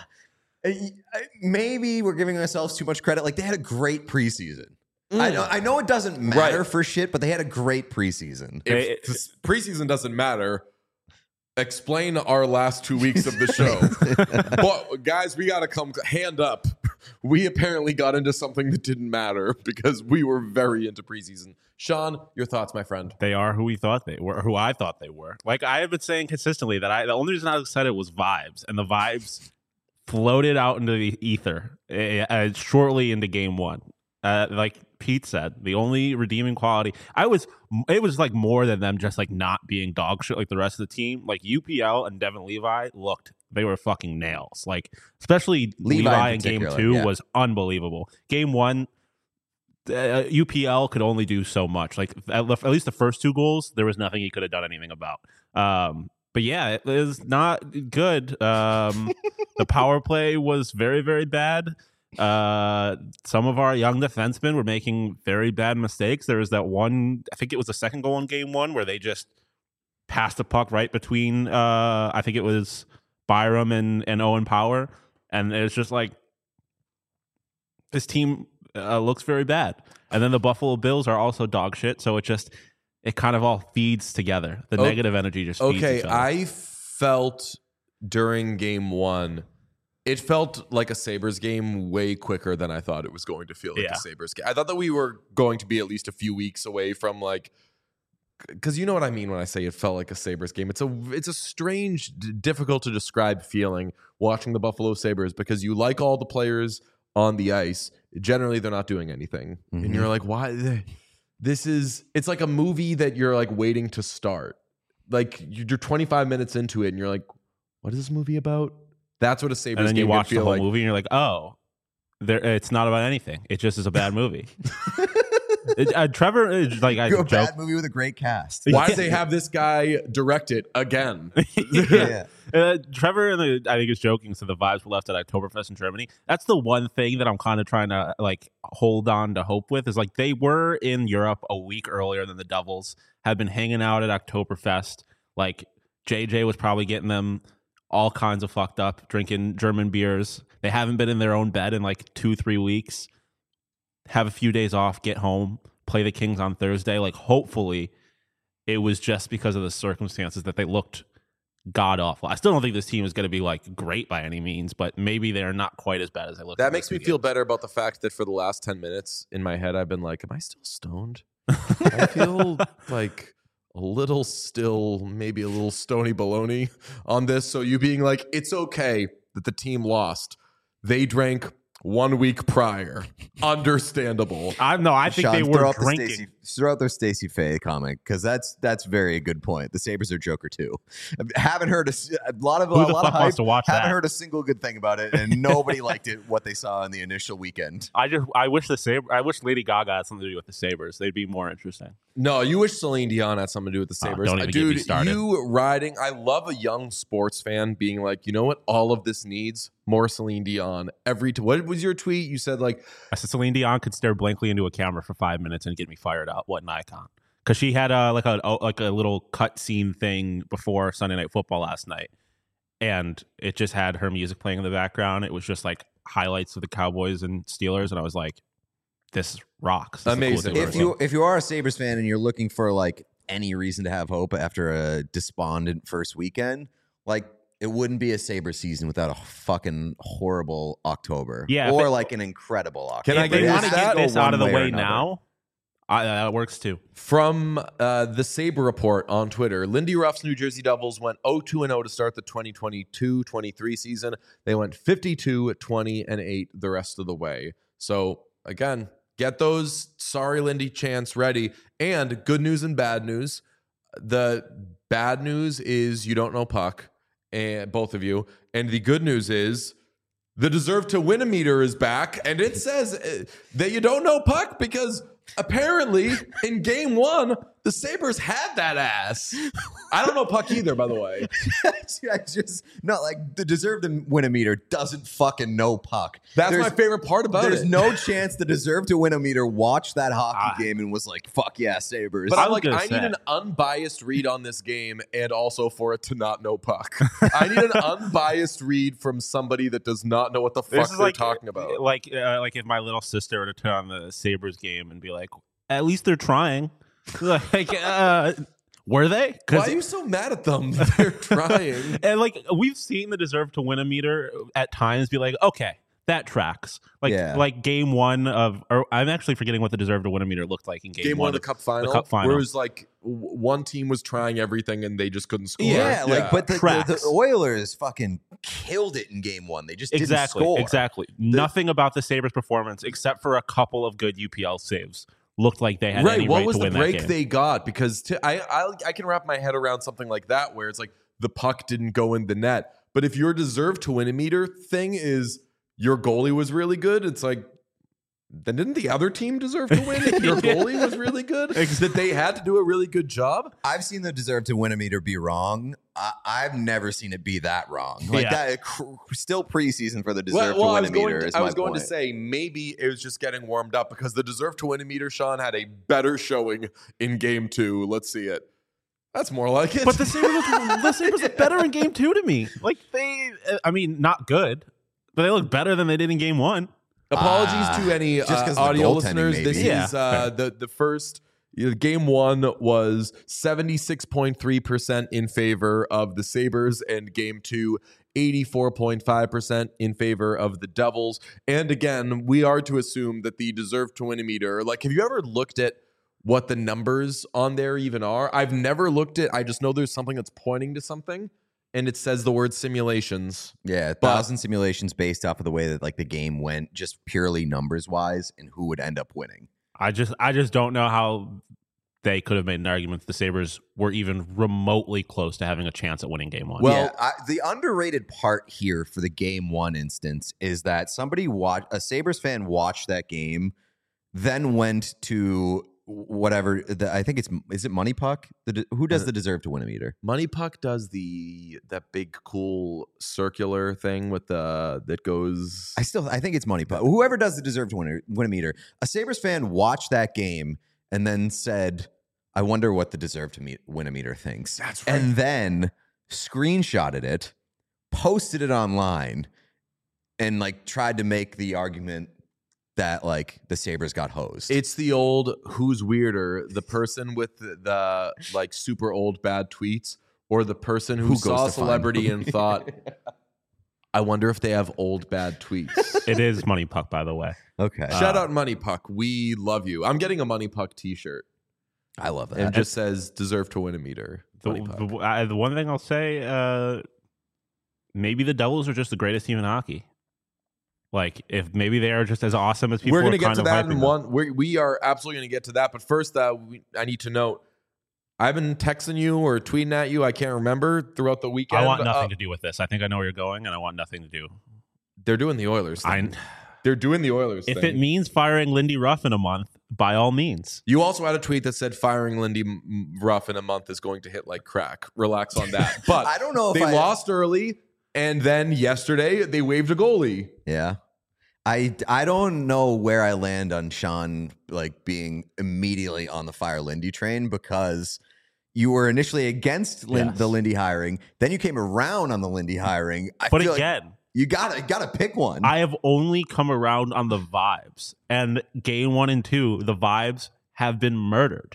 maybe we're giving ourselves too much credit. Like, they had a great preseason. I, know, I know it doesn't matter Right. for shit, but they had a great preseason. If the preseason doesn't matter, explain our last two weeks of the show. But guys, we got to come hand up. We apparently got into something that didn't matter because we were very into preseason. Sean, your thoughts, my friend? They are who we thought they were, who I thought they were. Like I have been saying consistently that I the only reason I was excited was vibes, and the vibes floated out into the ether uh, shortly into game one. Uh, like Pete said, the only redeeming quality I was it was like more than them just like not being dog shit like the rest of the team. Like U P L and Devin Levi looked, they were fucking nails. Like especially Levi, Levi in, in game two yeah. was unbelievable. Game one, uh, U P L could only do so much. Like at, at least the first two goals, there was nothing he could have done anything about. Um, but yeah, it was not good. Um, the power play was very very bad. Uh, some of our young defensemen were making very bad mistakes. There was that one, I think it was the second goal in game one, where they just passed the puck right between, uh, I think it was Byram and, and Owen Power. And it's just like, this team uh, looks very bad. And then the Buffalo Bills are also dog shit. So it just, it kind of all feeds together. The oh, negative energy just feeds okay, each other. I felt during game one, it felt like a Sabres game way quicker than I thought it was going to feel like yeah. a Sabres game. I thought that we were going to be at least a few weeks away from like, because you know what I mean when I say it felt like a Sabres game. It's a it's a strange, d- difficult to describe feeling watching the Buffalo Sabres because you like all the players on the ice. Generally, they're not doing anything. Mm-hmm. And you're like, why? This is, it's like a movie that you're like waiting to start. Like you're twenty-five minutes into it and you're like, what is this movie about? That's what a Sabres game and then you watch the whole like. movie and you're like, oh, there, it's not about anything. It just is a bad movie. it, uh, Trevor, is like I a joke, bad movie with a great cast. Why did they have this guy direct it again? yeah. uh, Trevor, and the, I think is joking. So the vibes were left at Oktoberfest in Germany. That's the one thing that I'm kind of trying to like hold on to hope with is like they were in Europe a week earlier than the Devils, had been hanging out at Oktoberfest. Like J J was probably getting them all kinds of fucked up, drinking German beers. They haven't been in their own bed in like two, three weeks. Have a few days off, get home, play the Kings on Thursday. Like, hopefully, it was just because of the circumstances that they looked god awful. I still don't think this team is going to be like great by any means, but maybe they're not quite as bad as they look. That makes me feel better about the fact that for the last ten minutes in my head, I've been like, am I still stoned? I feel like a little still, maybe a little stony baloney on this. So you being like, it's okay that the team lost. They drank one week prior. Understandable. I no, I think Sean, they were throw drinking. The Stacey, throw out their Stacey Faye comment because that's that's very a good point. The Sabres are Joker too. I haven't heard a, a lot of Who a the lot fuck of wants hype. to watch haven't that? heard a single good thing about it, and nobody liked it. What they saw in the initial weekend. I just I wish the Sabre I wish Lady Gaga had something to do with the Sabres. They'd be more interesting. No, you wish Celine Dion had something to do with the Sabres. Oh, don't even Dude, get me started. You riding, I love a young sports fan being like, you know what all of this needs? More Celine Dion. Every t- What was your tweet? You said like... I said Celine Dion could stare blankly into a camera for five minutes and get me fired up. What an icon. Because she had a, like, a, like a little cut scene thing before Sunday Night Football last night. And it just had her music playing in the background. It was just like highlights of the Cowboys and Steelers. And I was like, this rocks. This Amazing. If you if you are a Sabres fan and you're looking for like any reason to have hope after a despondent first weekend, like it wouldn't be a Sabres season without a fucking horrible October. Yeah, or it, like an incredible October. Can I if they get want to get this out of the way, way now, I, that works too. From uh, the Sabre Report on Twitter, Lindy Ruff's New Jersey Devils went oh two and oh to start the twenty twenty-two twenty-three season. They went fifty-two, twenty, and eight the rest of the way. So, again, get those sorry Lindy chants ready. And good news and bad news. The bad news is you don't know puck, and both of you. And the good news is the deserve to win a meter is back. And it says uh, that you don't know puck because apparently in game one, the Sabres had that ass. I don't know puck either, by the way. I just not like the deserve to win a meter doesn't fucking know puck. That's there's, my favorite part about there's it. There's no chance the deserve to win a meter watched that hockey uh, game and was like, fuck yeah, Sabres. But I'm like, I say. need an unbiased read on this game and also for it to not know puck. I need an unbiased read from somebody that does not know what the fuck they're like, talking about. Like, uh, like if my little sister were to turn on the Sabres game and be like, at least they're trying. Like, uh, Were they? Why are you so mad at them? They're trying. And like we've seen the deserve to win a meter at times be like, okay, that tracks. Like Yeah. like game one of, or I'm actually forgetting what the deserve to win a meter looked like in game, Game one of the cup final, the cup final. where it was like w- one team was trying everything and they just couldn't score. Yeah, like but the, the, Tracks. the Oilers fucking killed it in game one. They just Exactly, didn't score. exactly. Nothing about the Sabres' performance, except for a couple of good U P L saves, looked like they had right. any What right was to the win that break game. they got? Because to, I, I I can wrap my head around something like that, where it's like the puck didn't go in the net. But if your deserve to win a meter thing is your goalie was really good, it's like, then didn't the other team deserve to win if your goalie was really good? That they had to do a really good job? I've seen the deserve to win a meter be wrong. I, I've never seen it be that wrong. Like Yeah. that, cr- still preseason for the deserve Well, well, to I win was a going, meter. to, is I my was going point. to say maybe it was just getting warmed up because the deserve to win a meter, Sean, had a better showing in game two. Let's see it. That's more like it. But the Sabres, looked, the Sabres looked better in game two to me. Like they, I mean, not good, but they look better than they did in game one. Apologies Ah, to any just 'cause uh, of the audio goaltending, listeners. This maybe. Yeah, is uh, the the first you know, game one was seventy-six point three percent in favor of the Sabres, and game two, eighty-four point five percent in favor of the Devils. And again, we are to assume that the deserve to win a meter. Like, have you ever looked at what the numbers on there even are? I've never looked at. I just know there's something that's pointing to something, and it says the word simulations. Yeah, a But- thousand simulations based off of the way that like the game went, just purely numbers wise, and who would end up winning. I just, I just don't know how they could have made an argument that the Sabres were even remotely close to having a chance at winning game one. Well- yeah, I, the underrated part here for the game one instance is that somebody watched a Sabres fan watched that game, then went to whatever the, I think it's is it Money Puck? The, who does Uh, the deserve to win a meter? Money Puck does the that big cool circular thing with the that goes. I still I think it's Money Puck. Whoever does the deserve to win a, win a meter. A Sabres fan watched that game and then said, "I wonder what the deserve to meet, win a meter thinks." That's right. And then screenshotted it, posted it online, and like tried to make the argument that like the Sabres got hosed. It's the old who's weirder, the person with the, the like super old bad tweets, or the person who, Who saw a goes to find celebrity them? and thought, I wonder if they have old bad tweets. It is Money Puck, by the way. okay. Shout out Money Puck. We love you. I'm getting a Money Puck t-shirt. I love that. And it just says deserve to win a meter. The, Money Puck. the, I, the one thing I'll say, uh, maybe the Devils are just the greatest team in hockey. Like, if maybe they are just as awesome as people We're are going to get kind to of that hyping in them. one. We're, we are absolutely going to get to that. But first, uh, we, I need to note, I've been texting you or tweeting at you. I can't remember throughout the weekend. I want nothing Uh, to do with this. I think I know where you're going, and I want nothing to do. They're doing the Oilers I, thing. They're doing the Oilers if thing. it means firing Lindy Ruff in a month, by all means. You also had a tweet that said firing Lindy M- Ruff in a month is going to hit like crack. Relax on that. But I don't know if they I, lost early, and then yesterday they waived a goalie. Yeah. I, I don't know where I land on Sean like being immediately on the fire Lindy train because you were initially against Lin- Yes. the Lindy hiring, then you came around on the Lindy hiring. I But feel like again, you gotta you gotta pick one. I have only come around on the vibes. And game one and two, the vibes have been murdered.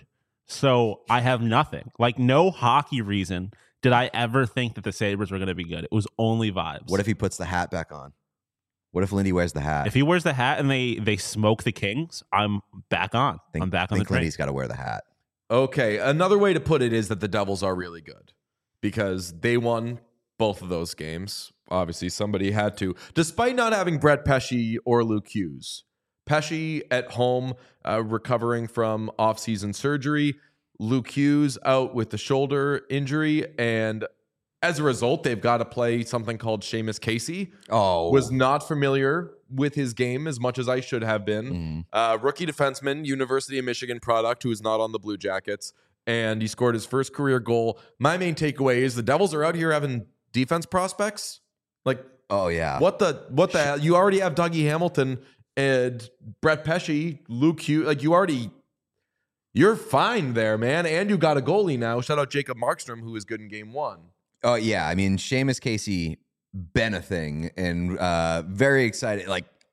So I have nothing. Like, no hockey reason did I ever think that the Sabres were going to be good. It was only vibes. What if he puts the hat back on? What if Lindy wears the hat? If he wears the hat and they they smoke the Kings, I'm back on. think, I'm back on the think train. Lindy's got to wear the hat. Okay, another way to put it is that the Devils are really good because they won both of those games. Obviously, somebody had to, despite not having Brett Pesce or Luke Hughes. Pesce at home, uh, recovering from off-season surgery. Luke Hughes out with the shoulder injury, and as a result, they've got to play something called Seamus Casey. Oh, Was not familiar with his game as much as I should have been. Mhm. Uh, rookie defenseman, University of Michigan product, who is not on the Blue Jackets, and he scored his first career goal. My main takeaway is the Devils are out here having defense prospects. Like, oh yeah. what the what the hell? You already have Dougie Hamilton and Brett Pesce, Luke Hughes. Like, you already, you're fine there, man. And you got a goalie now. Shout out Jacob Markstrom, who was good in game one. Oh yeah, I mean Seamus Casey been a thing and uh, very excited. Like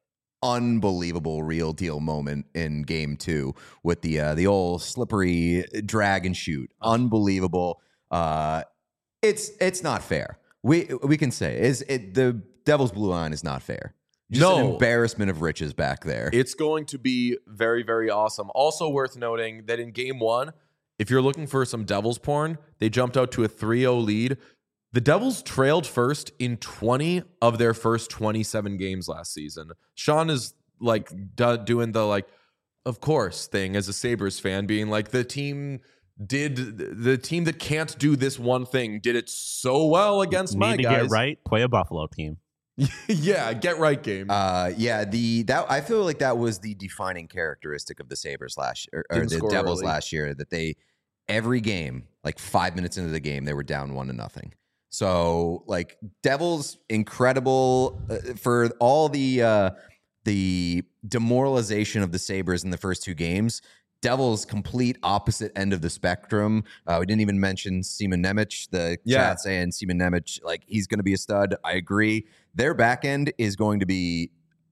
unbelievable real deal moment in game two with the uh, the old slippery drag and shoot. Unbelievable. Uh, it's it's not fair. We we can say is it the Devil's blue line is not fair. Just No. an embarrassment of riches back there. It's going to be very, very awesome. Also worth noting that in game one, if you're looking for some Devils porn, they jumped out to a three oh lead. The Devils trailed first in twenty of their first twenty-seven games last season. Sean is like do- doing the like, of course thing as a Sabres fan, being like the team did the team that can't do this one thing did it so well against Need my to guys. get right. Play a Buffalo team. Yeah, get right game. Uh, yeah, the that I feel like that was the defining characteristic of the Sabres last year, or Didn't the score Devils early. last year, that they every game, like five minutes into the game, they were down one to nothing. So, like, Devils incredible uh, for all the uh, the demoralization of the Sabres in the first two games. Devils complete opposite end of the spectrum. Uh, we didn't even mention Seaman Nemec. The Yeah. chat saying Seaman Nemec, like, he's going to be a stud. I agree. Their back end is going to be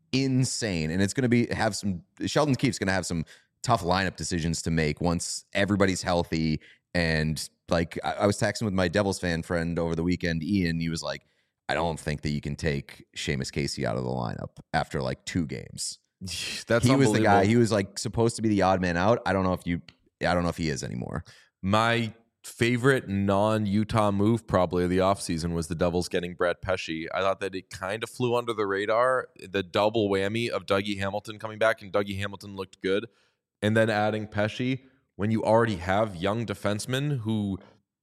insane, and it's going to be have some. Sheldon Keefe's going to have some tough lineup decisions to make once everybody's healthy. And like, I, I was texting with my Devils fan friend over the weekend, Ian. He was like, "I don't think that you can take Seamus Casey out of the lineup after like two games." That's He was the guy. unbelievable. He was like supposed to be the odd man out. I don't know if you. I don't know if he is anymore. My favorite non-Utah move probably of the offseason was the Devils getting Brett Pesce. I thought that it kind of flew under the radar. The double whammy of Dougie Hamilton coming back, and Dougie Hamilton looked good. And then adding Pesce when you already have young defensemen who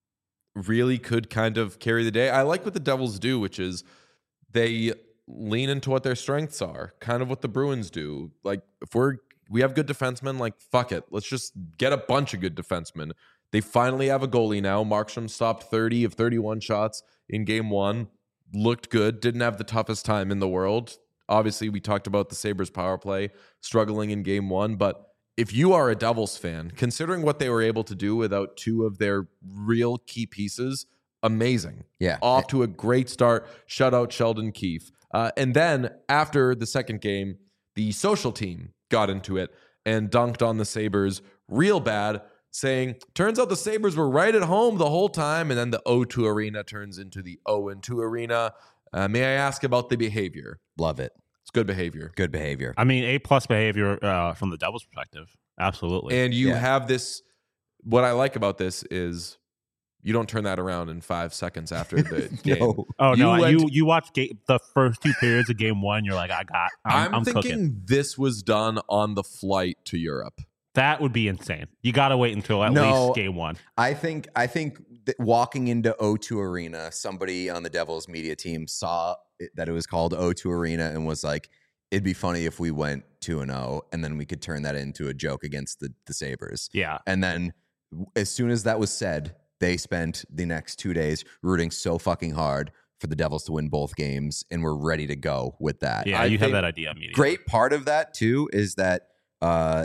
really could kind of carry the day. I like what the Devils do, which is they lean into what their strengths are, kind of what the Bruins do. Like, if we're we have good defensemen, like, fuck it. Let's just get a bunch of good defensemen. They finally have a goalie now. Markstrom stopped thirty of thirty-one shots in game one. Looked good. Didn't have the toughest time in the world. Obviously, we talked about the Sabres power play struggling in game one. But if you are a Devils fan, considering what they were able to do without two of their real key pieces, amazing. Yeah. Off to a great start. Shut out Sheldon Keefe. Uh, and then after the second game, the social team got into it and dunked on the Sabres real bad, saying, turns out the Sabres were right at home the whole time. And then the O two arena turns into the oh and two arena. Uh, may I ask about the behavior? Love it. It's good behavior. Good behavior. I mean, A plus behavior uh, from the Devils' perspective. Absolutely. And you Yeah. have this, what I like about this is you don't turn that around in five seconds after the game. No. oh you no, went- you you watch ga- the first two periods of game one. You're like, I got. I'm, I'm, I'm thinking cooking. this was done on the flight to Europe. That would be insane. You got to wait until at No. least game one. I think I think that walking into O two Arena, somebody on the Devils media team saw it, that it was called O two Arena and was like, it'd be funny if we went two and oh and then we could turn that into a joke against the, the Sabres. Yeah. And then as soon as that was said, they spent the next two days rooting so fucking hard for the Devils to win both games, and we're ready to go with that. Yeah, I you have think that idea immediately. Great part of that too is that uh,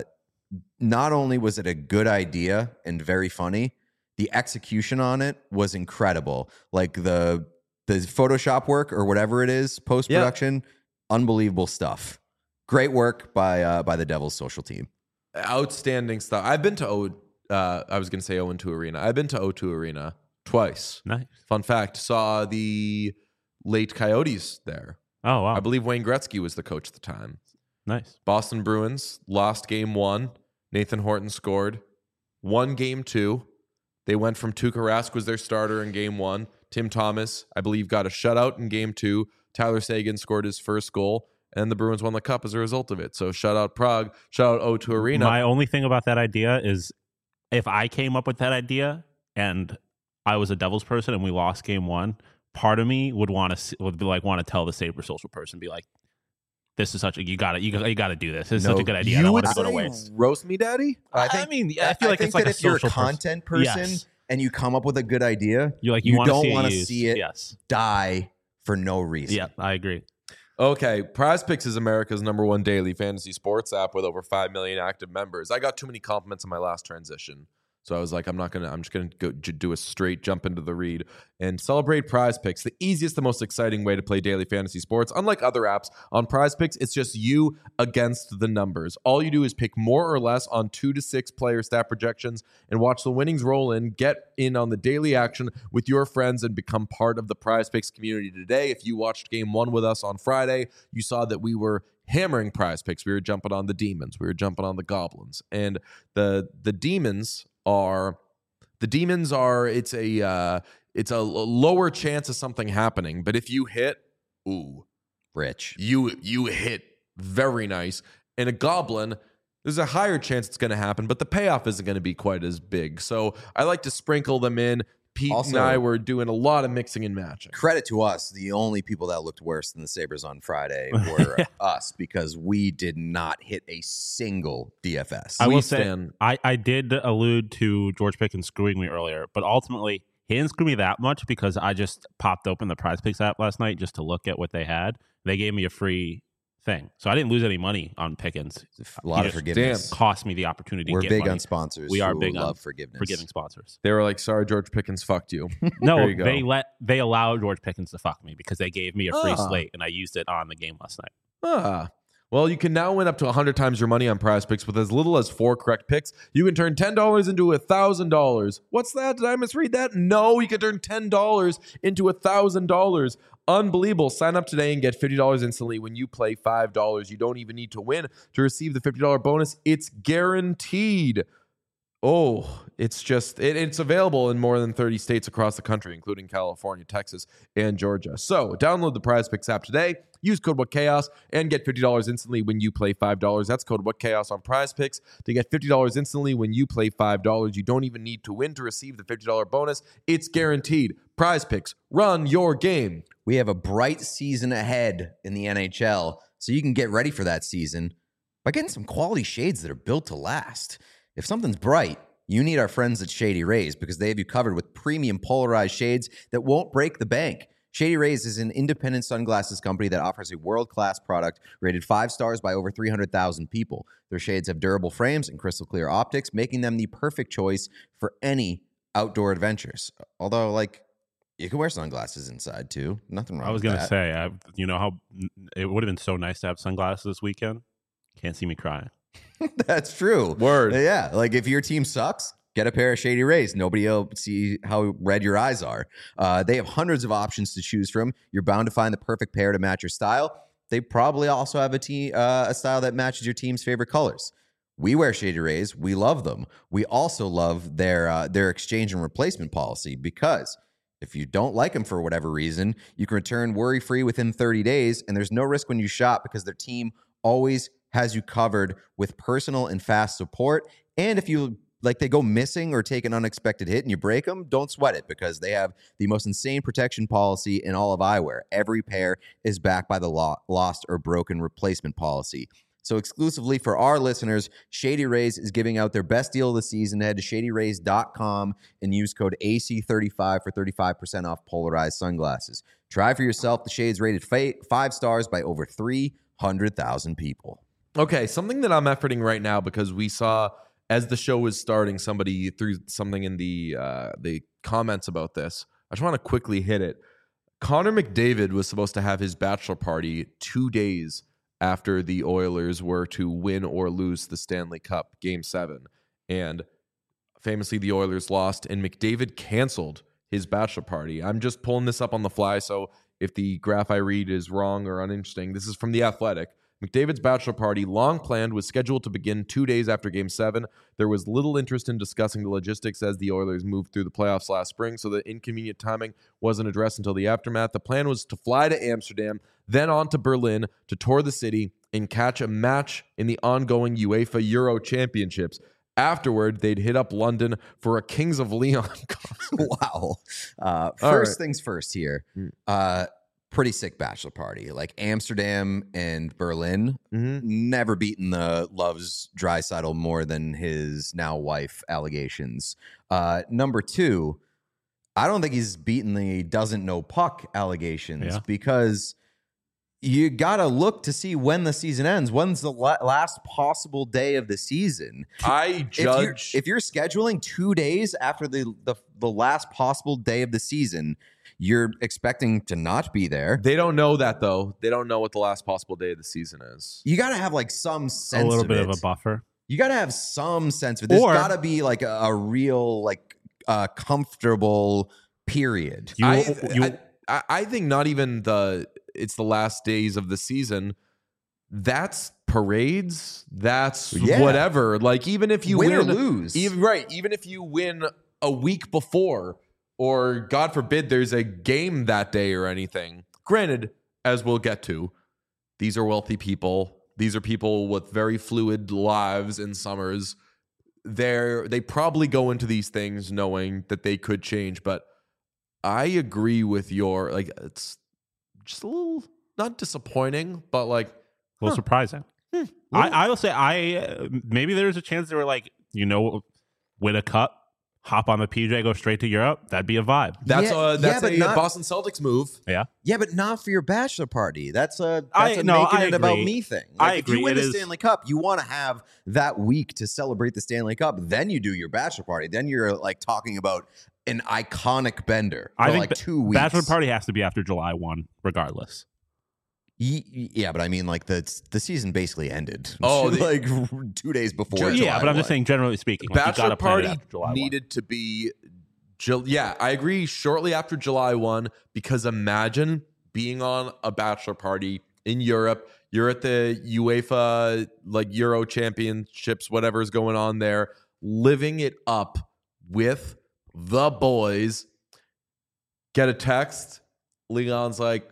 not only was it a good idea and very funny, the execution on it was incredible. Like the the Photoshop work or whatever it is, post production, unbelievable stuff. Great work by uh, by the Devils social team. Outstanding stuff. I've been to O. Uh, I was going to say O and two Arena. I've been to O two Arena twice. Nice. Fun fact: saw the late Coyotes there. Oh wow. I believe Wayne Gretzky was the coach at the time. Nice. Boston Bruins lost game one. Nathan Horton scored. Won game two. They went from Tuukka Rask was their starter in game one. Tim Thomas, I believe, got a shutout in game two. Tyler Seguin scored his first goal, and the Bruins won the cup as a result of it. So shout out Prague, shout out O two Arena. My only thing about that idea is if I came up with that idea and I was a Devils person and we lost game one, part of me would want to would be like want to tell the Sabres social person, be like, "This is such a you got to you got you got to do this. This is No, such a good idea. I you don't would want it to go to say waste." roast me, daddy? I mean, yeah, I feel like think it's like that a if you're a social person. content person Yes. and you come up with a good idea, You're like you, you want to don't see wanna it used. see it Yes. die for no reason. Yeah, I agree. Okay, Prize Picks is America's number one daily fantasy sports app with over five million active members. I got too many compliments on my last transition. So I was like, I'm not gonna. I'm just gonna go j- do a straight jump into the read and celebrate Prize Picks, the easiest, the most exciting way to play daily fantasy sports. Unlike other apps on Prize Picks, it's just you against the numbers. All you do is pick more or less on two to six player stat projections and watch the winnings roll in. Get in on the daily action with your friends and become part of the Prize Picks community today. If you watched Game One with us on Friday, you saw that we were hammering Prize Picks. We were jumping on the demons. We were jumping on the goblins, and the the demons. Are the demons are it's a uh, it's a lower chance of something happening, but if you hit, ooh, Rich, you you hit very nice. And a goblin, there's a higher chance it's going to happen, but the payoff isn't going to be quite as big. So I like to sprinkle them in. Pete also, and I were doing a lot of mixing and matching. Credit to us. The only people that looked worse than the Sabres on Friday were us, because we did not hit a single D F S. I We will say, stand- I, I did allude to George Pickens screwing me earlier, but ultimately he didn't screw me that much because I just popped open the Prize Picks app last night just to look at what they had. They gave me a free thing, so I didn't lose any money on Pickens. A lot He of just forgiveness. Cost me the opportunity. We're to get big money. on sponsors. We are who big on love forgiveness. Forgiving sponsors. They were like, "Sorry, George Pickens fucked you." There No, you go. they let they allowed George Pickens to fuck me because they gave me a free Ah. slate and I used it on the game last night. Ah. Well, you can now win up to one hundred times your money on Prize Picks with as little as four correct picks. You can turn ten dollars into one thousand dollars. What's that? Did I misread that? No, you can turn ten dollars into one thousand dollars. Unbelievable. Sign up today and get fifty dollars instantly when you play five dollars. You don't even need to win to receive the fifty dollars bonus. It's guaranteed. Oh, it's just, it, it's available in more than thirty states across the country, including California, Texas, and Georgia. So download the Prize Picks app today. Use code WhatChaos and get fifty dollars instantly when you play five dollars. That's code WhatChaos on Prize Picks to get fifty dollars instantly when you play five dollars. You don't even need to win to receive the fifty dollars bonus. It's guaranteed. Prize Picks, run your game. We have a bright season ahead in the N H L, so you can get ready for that season by getting some quality shades that are built to last. If something's bright, you need our friends at Shady Rays, because they have you covered with premium polarized shades that won't break the bank. Shady Rays is an independent sunglasses company that offers a world-class product rated five stars by over three hundred thousand people. Their shades have durable frames and crystal clear optics, making them the perfect choice for any outdoor adventures. Although, like, you can wear sunglasses inside too. Nothing wrong I was with gonna that. say, I, you know how it would have been so nice to have sunglasses this weekend. Can't see me crying. That's true. Word. Yeah. Like, if your team sucks, get a pair of Shady Rays. Nobody will see how red your eyes are. Uh, they have hundreds of options to choose from. You're bound to find the perfect pair to match your style. They probably also have a, te- uh, a style that matches your team's favorite colors. We wear Shady Rays. We love them. We also love their uh, their exchange and replacement policy, because if you don't like them for whatever reason, you can return worry-free within thirty days, and there's no risk when you shop because their team always has you covered with personal and fast support. And if you like they go missing or take an unexpected hit and you break them, don't sweat it, because they have the most insane protection policy in all of eyewear. Every pair is backed by the lo- lost or broken replacement policy. So exclusively for our listeners, Shady Rays is giving out their best deal of the season. Head to shady rays dot com and use code A C thirty-five for thirty-five percent off polarized sunglasses. Try for yourself. The shades rated fa- five stars by over three hundred thousand people. Okay, something that I'm efforting right now, because we saw as the show was starting, somebody threw something in the uh, the comments about this. I just want to quickly hit it. Connor McDavid was supposed to have his bachelor party two days after the Oilers were to win or lose the Stanley Cup Game seven. And famously, the Oilers lost, and McDavid canceled his bachelor party. I'm just pulling this up on the fly, so if the graph I read is wrong or uninteresting, this is from The Athletic. McDavid's bachelor party, long planned, was scheduled to begin two days after Game seven. There was little interest in discussing the logistics as the Oilers moved through the playoffs last spring, so the inconvenient timing wasn't addressed until the aftermath. The plan was to fly to Amsterdam, then on to Berlin to tour the city and catch a match in the ongoing UEFA Euro Championships. Afterward, they'd hit up London for a Kings of Leon concert. Wow. Uh, All first right. things first here. Uh, pretty sick bachelor party. Like Amsterdam and Berlin, Mm-hmm. never beaten the Loves Draisaitl more than his now wife allegations. Uh, number two, I don't think he's beaten the doesn't know puck allegations, Yeah. because you gotta look to see when the season ends. When's the la- last possible day of the season? I judge if you're, if you're scheduling two days after the, the the last possible day of the season, you're expecting to not be there. They don't know that though. They don't know what the last possible day of the season is. You gotta have like some sense. A little of bit it. of a buffer. You gotta have some sense of it. There's Or- gotta be like a, a real like uh, comfortable period. You, I, you, I, I think not even the it's the last days of the season. That's parades. That's Yeah. whatever. Like even if you Win win, or lose. even right, even if you win a week before, or God forbid there's a game that day or anything. Granted, as we'll get to, these are wealthy people. These are people with very fluid lives in summers. They're they probably go into these things knowing that they could change, but I agree with your like it's just a little not disappointing, but like a little huh. surprising. Hmm. I, I will say, I uh, maybe there's a chance they were like, you know, win a cup, hop on the P J, go straight to Europe. That'd be a vibe. That's Yeah, a that's yeah, but a not- Boston Celtics move. Yeah. Yeah, but not for your bachelor party. That's a that's I- a no, making I it about agree. me thing. I Like, if agree. you win It the is- Stanley Cup, you want to have that week to celebrate the Stanley Cup. Then you do your bachelor party. Then you're like talking about an iconic bender for I think like ba- two weeks. Bachelor party has to be after July first, regardless. Ye- Yeah, but I mean, like the the season basically ended. Oh, the- like two days before. Ju- July yeah, but I'm just one. saying, generally speaking, like, you Bachelor gotta plan it party after July first. needed to be Ju- yeah, I agree shortly after July first because imagine being on a bachelor party in Europe. You're at the UEFA like Euro Championships, whatever's going on there, living it up with the boys. Get a text. Leon's like,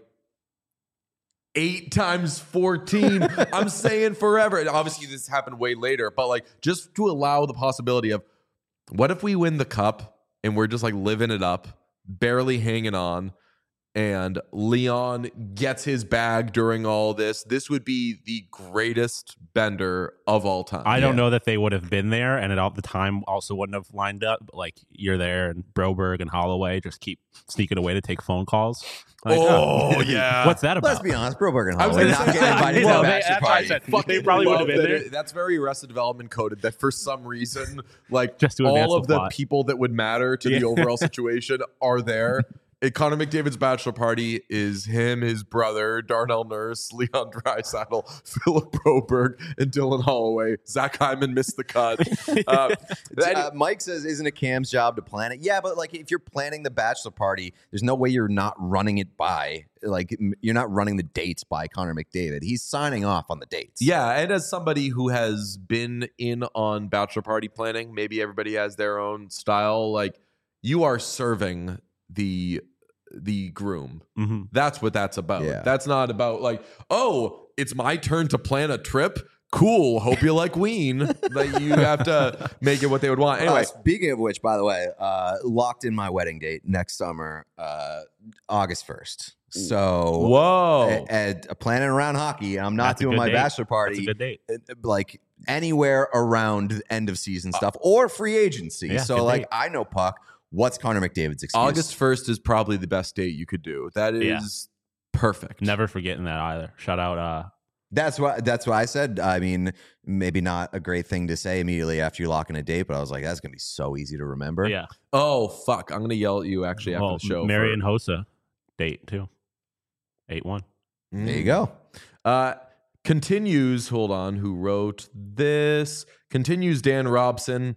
eight times fourteen. I'm saying forever. And obviously, this happened way later, but like just to allow the possibility of what if we win the cup and we're just like living it up, barely hanging on, and Leon gets his bag during all this. This would be the greatest bender of all time. I don't Yeah. know that they would have been there, and at all the time also wouldn't have lined up. But like you're there, and Broberg and Holloway just keep sneaking away to take phone calls. Like, Oh, yeah. what's that about? Let's be honest, Broberg and I was Holloway gonna not say- getting invited to Well, the they- bachelor that's why I party. said- Fucking They probably love would have been that there. it- That's very Arrested Development coded. That for some reason, like Just to advance all the of the plot. people that would matter to Yeah. the overall situation are there. It, Connor McDavid's bachelor party is him, his brother, Darnell Nurse, Leon Draisaitl, Philip Broberg, and Dylan Holloway. Zach Hyman missed the cut. Uh, that- Uh, Mike says, "Isn't it Cam's job to plan it?" Yeah, but like if you're planning the bachelor party, there's no way you're not running it by like m- you're not running the dates by Connor McDavid. He's signing off on the dates. Yeah, and as somebody who has been in on bachelor party planning, maybe everybody has their own style. Like you are serving the the groom. Mhm. That's what that's about. Yeah. That's not about like, oh, it's my turn to plan a trip. Cool. Hope you like Ween. Like you have to make it what they would want. Anyway, Uh, speaking of which, by the way, uh, locked in my wedding date next summer, uh, August first. So, whoa. and planning around hockey. I'm not That's a doing good my date. bachelor That's a party. good date. uh, Like anywhere around end of season stuff or free agency. Yeah, so, good like, date. I know Puck. What's Connor McDavid's excuse? August first is probably the best date you could do. That is Yeah. perfect. Never forgetting that either. Shout out. Uh, That's why. That's why I said. I mean, maybe not a great thing to say immediately after you lock in a date, but I was like, that's gonna be so easy to remember. yeah. Oh fuck. I'm gonna yell at you actually after Well, the show. Mary for- and Hossa date too. Eight one. There you go. Uh, continues, hold on, who wrote this? Continues Dan Robson.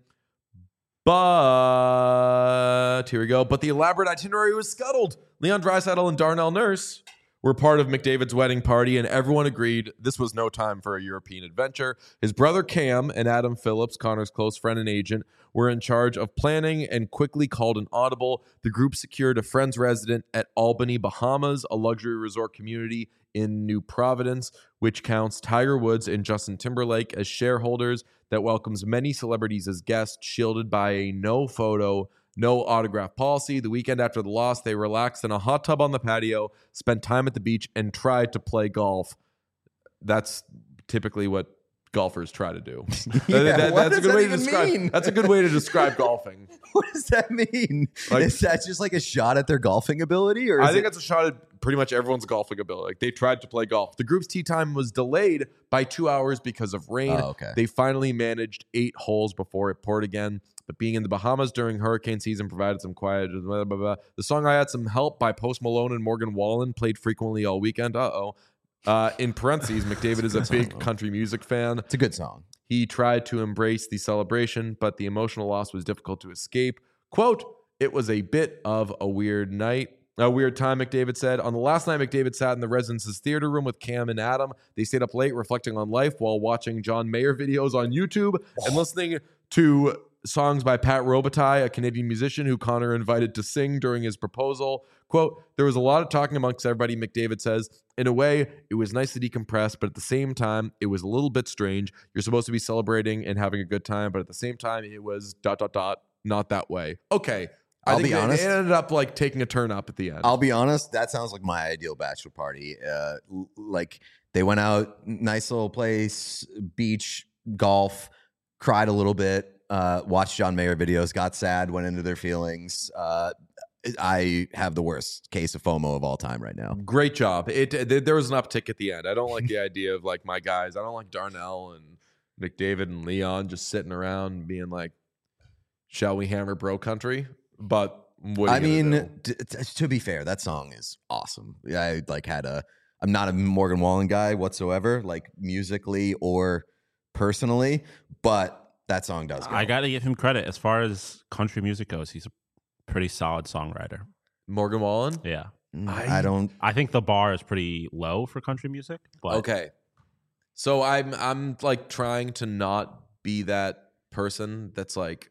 But here we go. But the elaborate itinerary was scuttled. Leon Draisaitl and Darnell Nurse were part of McDavid's wedding party, and everyone agreed this was no time for a European adventure. His brother Cam and Adam Phillips, Connor's close friend and agent, were in charge of planning and quickly called an audible. The group secured a friend's resident at Albany, Bahamas, a luxury resort community in New Providence, which counts Tiger Woods and Justin Timberlake as shareholders, that welcomes many celebrities as guests, shielded by a no photo, no autograph policy. The weekend after the loss, they relaxed in a hot tub on the patio, spent time at the beach, and tried to play golf. That's typically what golfers try to do. Yeah, That- that- what that's a does good that way to even describe. mean? That's a good way to describe golfing. What does that mean? Like- Is that just like a shot at their golfing ability, or is I think it, it's a shot at pretty much everyone's golfing ability. Like they tried to play golf. The group's tee time was delayed by two hours because of rain. Oh, okay. They finally managed eight holes before it poured again. But being in the Bahamas during hurricane season provided some quiet. Blah, blah, blah. The song "I Had Some Help" by Post Malone and Morgan Wallen played frequently all weekend. Uh-oh. Uh, in parentheses, McDavid is a big country music fan. It's a good song. He tried to embrace the celebration, but the emotional loss was difficult to escape. Quote, "It was a bit of a weird night. A weird time," McDavid said. On the last night, McDavid sat in the Residence's theater room with Cam and Adam. They stayed up late reflecting on life while watching John Mayer videos on YouTube and listening to songs by Pat Robitaille, a Canadian musician who Connor invited to sing during his proposal. Quote, "There was a lot of talking amongst everybody," McDavid says. "In a way, it was nice to decompress, but at the same time, it was a little bit strange. You're supposed to be celebrating and having a good time, but at the same time, it was dot, dot, dot, not that way." Okay. I I'll think be they, honest. They ended up like taking a turn up at the end. I'll be honest, that sounds like my ideal bachelor party. Uh, l- like they went out, nice little place, beach, golf, cried a little bit, uh, watched John Mayer videos, got sad, went into their feelings. Uh, I have the worst case of FOMO of all time right now. Great job. It, it there was an uptick at the end. I don't like the idea of like my guys. I don't like Darnell and McDavid and Leon just sitting around being like, "Shall we hammer bro country?" But what are I you gonna mean, do? t- t- to be fair, that song is awesome. I like had a. I'm not a Morgan Wallen guy whatsoever, like musically or personally, but that song does. Go. I got to give him credit. As far as country music goes, he's a pretty solid songwriter. Morgan Wallen. Yeah. Mm, I- I don't. I think the bar is pretty low for country music. But Okay. So I'm I'm like trying to not be that person that's like,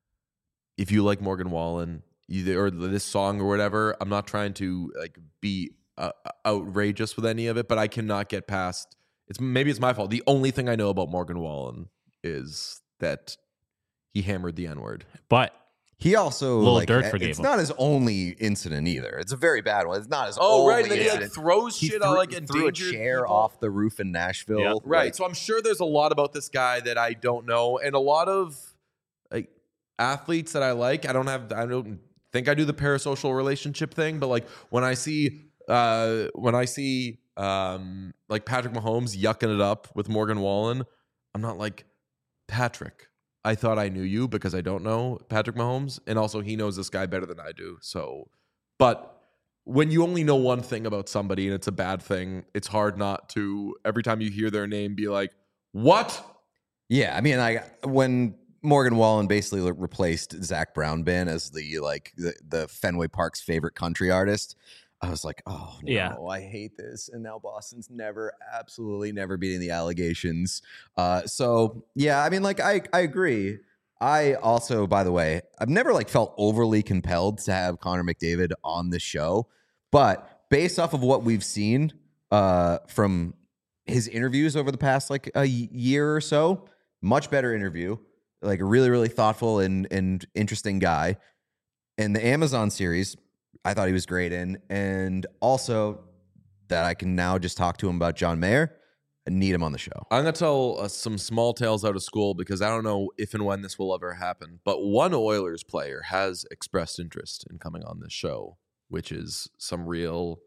if you like Morgan Wallen you, or this song or whatever, I'm not trying to like be uh, outrageous with any of it, but I cannot get past. It's maybe it's my fault. The only thing I know about Morgan Wallen is that he hammered the N word. But He also Lil like Durk forgave it's him. not his only incident either. It's a very bad one. It's not his Oh only right, and then he like incident. throws He shit threw, out like he threw a endangered chair people. off the roof in Nashville. Yeah. Right. Like, So I'm sure there's a lot about this guy that I don't know, and a lot of like athletes that I like. I don't have. I don't think I do the parasocial relationship thing, but like when I see, uh, when I see, um, like Patrick Mahomes yucking it up with Morgan Wallen, I'm not like, Patrick, I thought I knew you, because I don't know Patrick Mahomes, and also he knows this guy better than I do. So, but when you only know one thing about somebody and it's a bad thing, it's hard not to, every time you hear their name, be like, what? yeah, I mean, I when Morgan Wallen basically like, replaced Zach Brown Band as the like the, the Fenway Park's favorite country artist, I was like, oh no, Yeah. I hate this. And now Boston's never, absolutely never beating the allegations. Uh, so yeah, I mean, like I I agree. I also, by the way, I've never like felt overly compelled to have Connor McDavid on the show, but based off of what we've seen uh, from his interviews over the past like a y- year or so, much better interview, like a really, really thoughtful and and interesting guy. And the Amazon series, I thought he was great in, and also that I can now just talk to him about John Mayer and need him on the show. I'm going to tell uh, some small tales out of school, because I don't know if and when this will ever happen, but one Oilers player has expressed interest in coming on this show, which is some real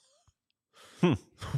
Hmm.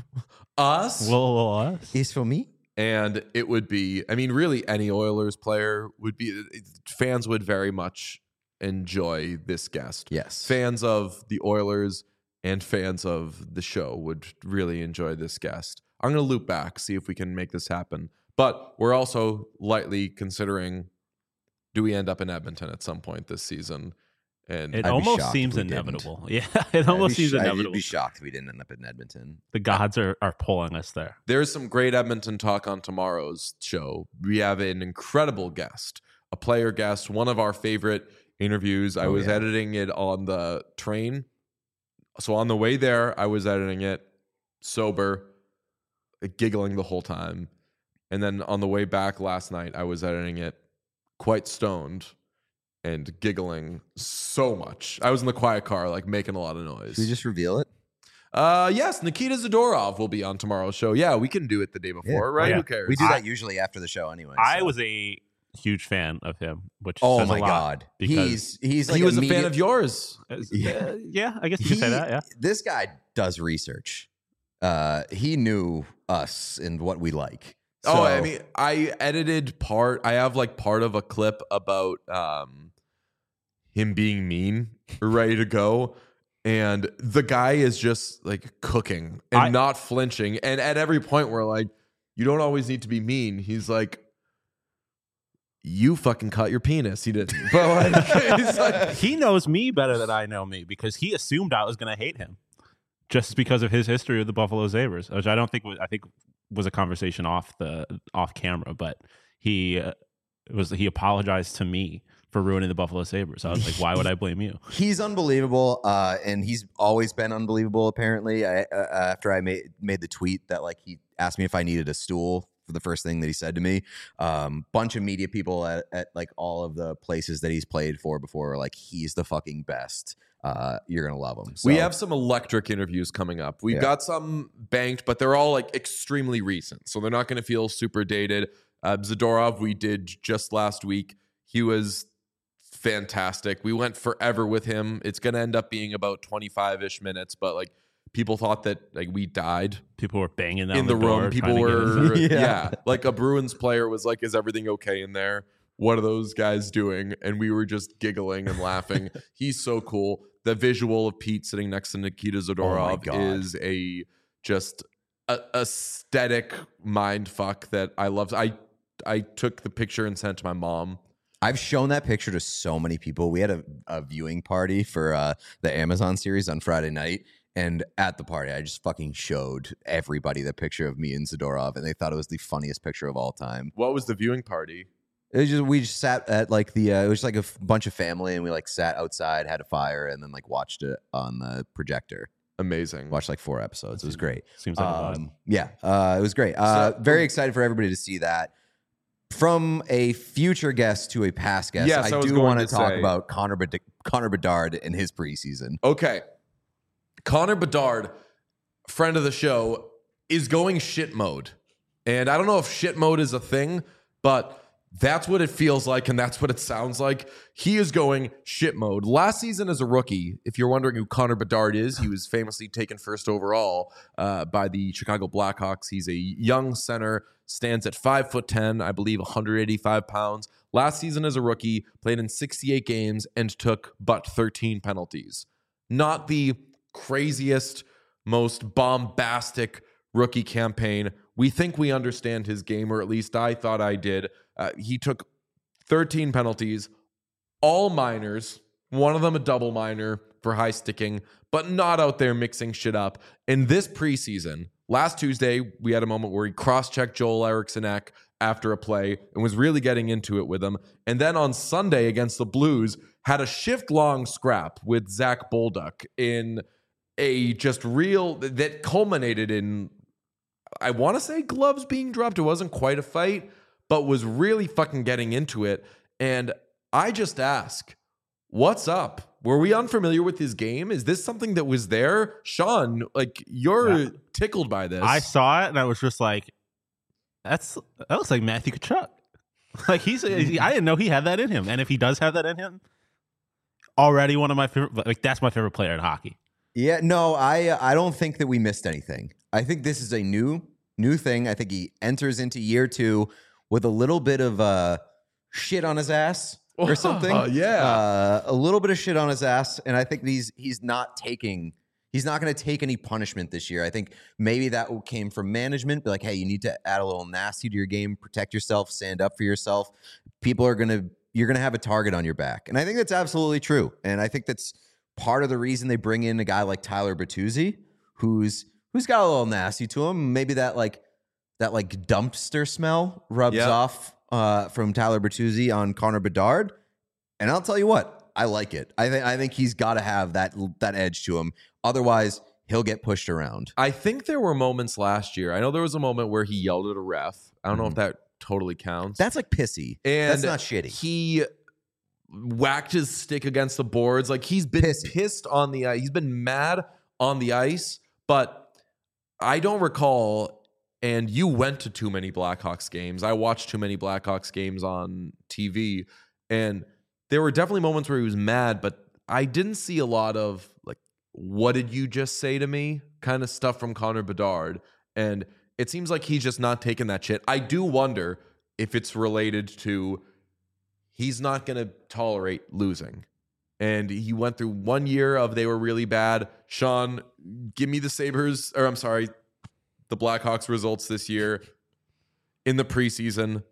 us. well, us. Is for me? And it would be, I mean, really any Oilers player would be, fans would very much enjoy this guest. Yes. Fans of the Oilers and fans of the show would really enjoy this guest. I'm going to loop back, see if we can make this happen. But we're also lightly considering, do we end up in Edmonton at some point this season? And It I'd be almost shocked seems if we didn't. inevitable. Yeah, it almost I'd be seems sh- I'd inevitable. be shocked if we didn't end up in Edmonton. The gods are, are pulling us there. there's some great Edmonton talk on tomorrow's show. We have an incredible guest, a player guest, one of our favorite interviews. I Oh, was yeah. editing it on the train. So on the way there, I was editing it sober, giggling the whole time. And then on the way back last night, I was editing it quite stoned and giggling so much. I was in the quiet car, like making a lot of noise. Should we just reveal it? uh, yes, Nikita Zadorov will be on tomorrow's show. Yeah, we can do it the day before, right? Yeah. Who cares? We do I- that usually after the show anyway. I so. was a huge fan of him. Which Oh says my a lot god, because he's he's like he was a media- fan of yours. yeah. Uh, yeah, I guess you could He- say that. Yeah, This guy does research. Uh, he knew us and what we like. Oh, So- I mean, I edited part. I have like part of a clip about um, him being mean, ready to go, and the guy is just like cooking and I- not flinching. And at every point, we're like, "You don't always need to be mean." He's like, "You fucking cut your penis." He didn't, but like, he's like, he knows me better than I know me because he assumed I was going to hate him just because of his history with the Buffalo Sabres, which I don't think was, I think was a conversation off the off camera, but he uh, was he apologized to me for ruining the Buffalo Sabres. I was like, why would I blame you? He's unbelievable, uh, and he's always been unbelievable. Apparently, I, uh, after I made made the tweet that like he asked me if I needed a stool for the first thing that he said to me, um, bunch of media people at, at like all of the places that he's played for before were like, he's the fucking best. Uh, you're gonna love him. So, we have some electric interviews coming up. We've Yeah. got some banked, but they're all like extremely recent, so they're not going to feel super dated. Uh, Zadorov, we did just last week. He was fantastic. We went forever with him. It's going to end up being about twenty-five ish minutes, but like people thought that like we died People were banging down in the, door, room. People trying to get were, in. yeah. Yeah. Like a Bruins player was like, "Is everything okay in there? What are those guys doing?" And we were just giggling and laughing. He's so cool. The visual of Pete sitting next to Nikita Zadorov God. is a just a aesthetic mind fuck that I love. I I took the picture and sent it to my mom. I've shown that picture to so many people. We had a, a viewing party for uh, the Amazon series on Friday night. And at the party, I just fucking showed everybody the picture of me and Zadorov, and they thought it was the funniest picture of all time. What was the viewing party? It was just we just sat at like the uh, it was like a f- bunch of family, and we like sat outside, had a fire, and then like watched it on the projector. Amazing. Watched like four episodes. It was great. Seems like a vibe. Um, yeah, uh, it was great. Uh, So- very excited for everybody to see that. From a future guest to a past guest, Yes, I I, was do going want to to talk say- about Connor Bed- Connor Bedard and his preseason. Okay. Connor Bedard, friend of the show, is going shit mode. And I don't know if shit mode is a thing, but that's what it feels like and that's what it sounds like. He is going shit mode. Last season as a rookie, if you're wondering who Connor Bedard is, he was famously taken first overall uh, by the Chicago Blackhawks. He's a young center, stands at five foot ten, I believe one hundred eighty-five pounds. Last season as a rookie, played in sixty-eight games and took but thirteen penalties. Not the craziest, most bombastic rookie campaign. We think we understand his game, or at least I thought I did. Uh, he took thirteen penalties, all minors, one of them a double minor for high sticking, but not out there mixing shit up. In this preseason, last Tuesday, we had a moment where he cross-checked Joel Eriksson-Ek after a play and was really getting into it with him. And then on Sunday against the Blues, had a shift-long scrap with Zach Bolduc in a just real that culminated in, I want to say gloves being dropped. It wasn't quite a fight, but was really fucking getting into it. And I just ask, what's up? Were we unfamiliar with his game? Is this something that was there? Sean, like, you're Yeah. tickled by this. I saw it and I was just like, "That's that looks like Matthew Tkachuk." Like he's, I didn't know he had that in him, and if he does have that in him, already one of my favorite. Like that's my favorite player in hockey. Yeah, no, I I don't think that we missed anything. I think this is a new new thing. I think he enters into year two with a little bit of uh, shit on his ass or something. Oh, yeah. uh, a little bit of shit on his ass, and I think he's he's not taking he's not going to take any punishment this year. I think maybe that came from management, be like, hey, you need to add a little nasty to your game, protect yourself, stand up for yourself. People are gonna you're gonna have a target on your back, and I think that's absolutely true. And I think that's part of the reason they bring in a guy like Tyler Bertuzzi, who's who's got a little nasty to him. Maybe that like that like dumpster smell rubs Yep. off uh, from Tyler Bertuzzi on Connor Bedard. And I'll tell you what, I like it. I think I think he's got to have that that edge to him. Otherwise, he'll get pushed around. I think there were moments last year. I know there was a moment where he yelled at a ref. I don't know if that totally counts. That's like pissy. and That's not shitty. He whacked his stick against the boards. Like he's been Pissy. pissed on the ice. He's been mad on the ice, but I don't recall And you went to too many Blackhawks games. I watched too many Blackhawks games on T V. And there were definitely moments where he was mad, but I didn't see a lot of, like, what did you just say to me kind of stuff from Connor Bedard. And it seems like he's just not taking that shit. I do wonder if it's related to he's not going to tolerate losing. And he went through one year of they were really bad. Sean, give me the Sabres, or I'm sorry, the Blackhawks results this year in the preseason.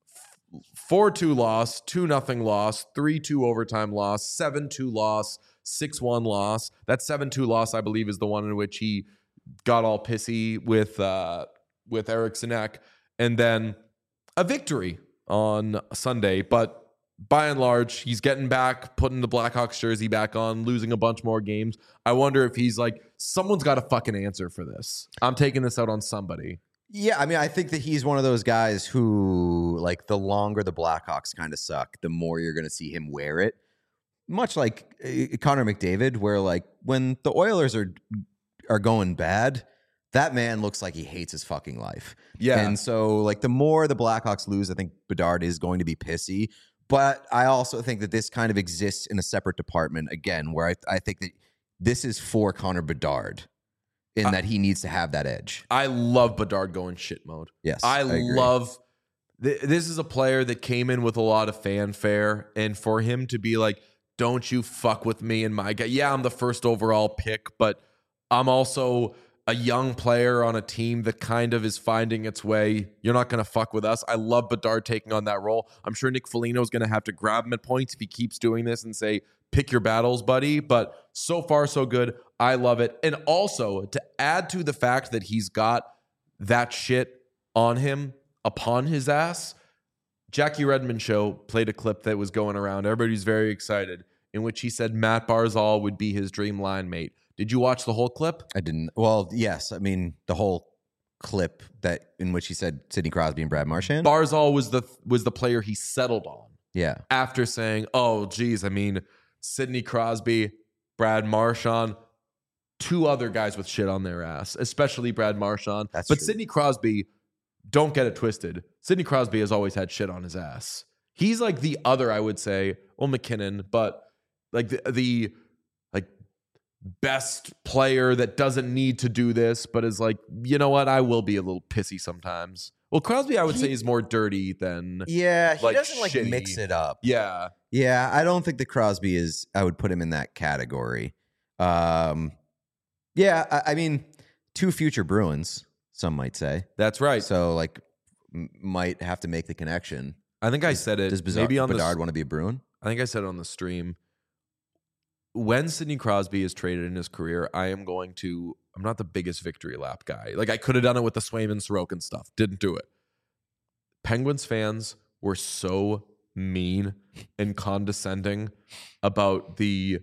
four two loss, two nothing loss, three two overtime loss, seven two loss, six one loss. That seven two loss, I believe, is the one in which he got all pissy with uh, with Eric Sinek. And then a victory on Sunday. But by and large, he's getting back, putting the Blackhawks jersey back on, losing a bunch more games. I wonder if he's like, someone's got a fucking answer for this. I'm taking this out on somebody. Yeah, I mean, I think that he's one of those guys who, like, the longer the Blackhawks kind of suck, the more you're going to see him wear it. Much like uh, Connor McDavid, where, like, when the Oilers are are going bad, that man looks like he hates his fucking life. Yeah. And so, like, the more the Blackhawks lose, I think Bedard is going to be pissy. But I also think that this kind of exists in a separate department, again, where I, I think that this is for Connor Bedard in uh, that he needs to have that edge. I love Bedard going shit mode. Yes, I, I love th- this is a player that came in with a lot of fanfare, and for him to be like, don't you fuck with me and my guy. Yeah, I'm the first overall pick, but I'm also a young player on a team that kind of is finding its way. You're not going to fuck with us. I love Bedard taking on that role. I'm sure Nick Foligno is going to have to grab him at points if he keeps doing this and say, pick your battles, buddy. But so far, so good. I love it. And also, to add to the fact that he's got that shit on him, upon his ass, Jackie Redmond show played a clip that was going around. Everybody's very excited, in which he said Matt Barzal would be his dream line mate. Did you watch the whole clip? I didn't. Well, yes. I mean, the whole clip that in which he said Sidney Crosby and Brad Marchand. Barzal was the was the player he settled on. Yeah. After saying, "Oh, geez, I mean, Sidney Crosby, Brad Marchand, two other guys with shit on their ass, especially Brad Marchand." That's but true. Sidney Crosby, don't get it twisted. Sidney Crosby has always had shit on his ass. He's like the other, I would say, well, McKinnon, but like the the. best player that doesn't need to do this, but is like, you know what? I will be a little pissy sometimes. Well, Crosby, I would he, say, is more dirty than yeah. He like, doesn't like shitty. mix it up. Yeah, yeah. I don't think that Crosby is. I would put him in that category. Um, yeah. I, I mean, two future Bruins. Some might say that's right. So, like, m- might have to make the connection. I think I said it. Does Bizarre, maybe on Bedard the, want to be a Bruin? I think I said it on the stream. When Sidney Crosby is traded in his career, I am going to, I'm not the biggest victory lap guy. Like, I could have done it with the Swayman Sorokin stuff. Didn't do it. Penguins fans were so mean and condescending about the,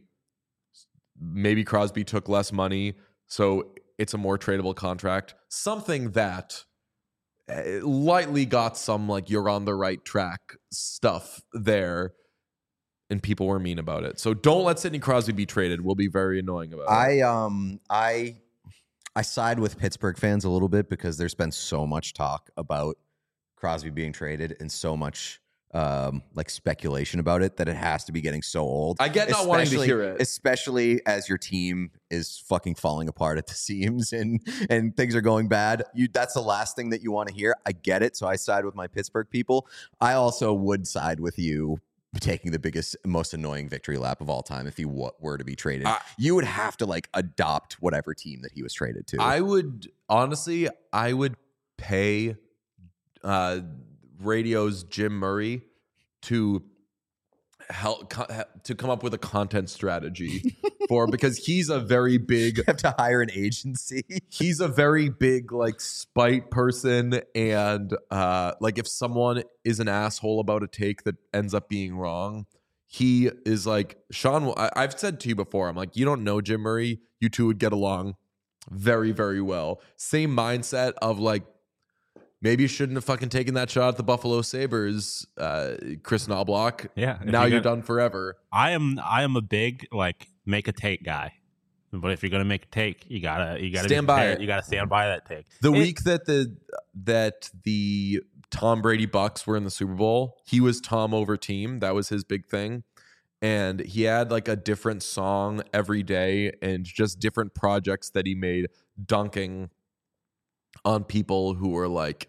maybe Crosby took less money, so it's a more tradable contract. Something that lightly got some, like, you're on the right track stuff there. And people were mean about it. So don't let Sidney Crosby be traded. We'll be very annoying about I, it. I um I I side with Pittsburgh fans a little bit because there's been so much talk about Crosby being traded and so much um like speculation about it that it has to be getting so old. I get not wanting to hear it. Especially as your team is fucking falling apart at the seams and and things are going bad. You that's the last thing that you want to hear. I get it. So I side with my Pittsburgh people. I also would side with you taking the biggest, most annoying victory lap of all time if he w- were to be traded. Uh, you would have to like adopt whatever team that he was traded to. I would, honestly, I would pay uh, radio's Jim Murray to help co- to come up with a content strategy for, because he's a very big you have to hire an agency. He's a very big like spite person, and uh like if someone is an asshole about a take that ends up being wrong, he is like, Sean, I, I've said to you before, I'm like, you don't know Jim Murray, you two would get along very, very well. Same mindset of like, maybe you shouldn't have fucking taken that shot at the Buffalo Sabres, uh, Chris Knobloch. Yeah. Now you you're get, done forever. I am I am a big, like, make a take guy. But if you're gonna make a take, you gotta you gotta Stand be by prepared. it. You gotta stand by that take. The It- week that the that the Tom Brady Bucks were in the Super Bowl, he was Tom over team. That was his big thing. And he had like a different song every day and just different projects that he made dunking on people who were like,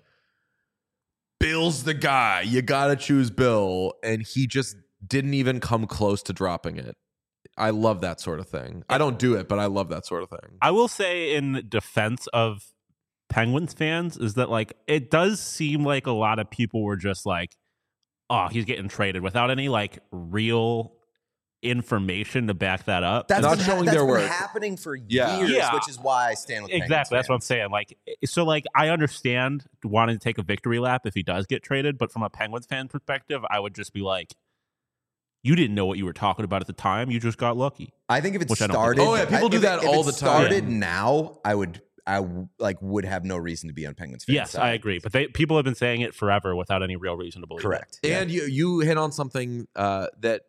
Bill's the guy. You got to choose Bill. And he just didn't even come close to dropping it. I love that sort of thing. I don't do it, but I love that sort of thing. I will say in defense of Penguins fans is that like it does seem like a lot of people were just like, oh, he's getting traded without any like real information to back that up. That's Not been, showing that's their been work. happening for Yeah. years, Yeah. which is why I stand with Exactly. That's what I'm Penguins saying. Like, so, like, I understand wanting to take a victory lap if he does get traded, but from a Penguins fan perspective, I would just be like, you didn't know what you were talking about at the time. You just got lucky. I think if it Which I don't started, think Oh, yeah, people I- do if it- that if all it the time. Started now, I would, I w- like would have no reason to be on Penguins fans. Yes, side. I agree. But they, people have been saying it forever without any real reason to believe Correct. And you you hit on something uh, that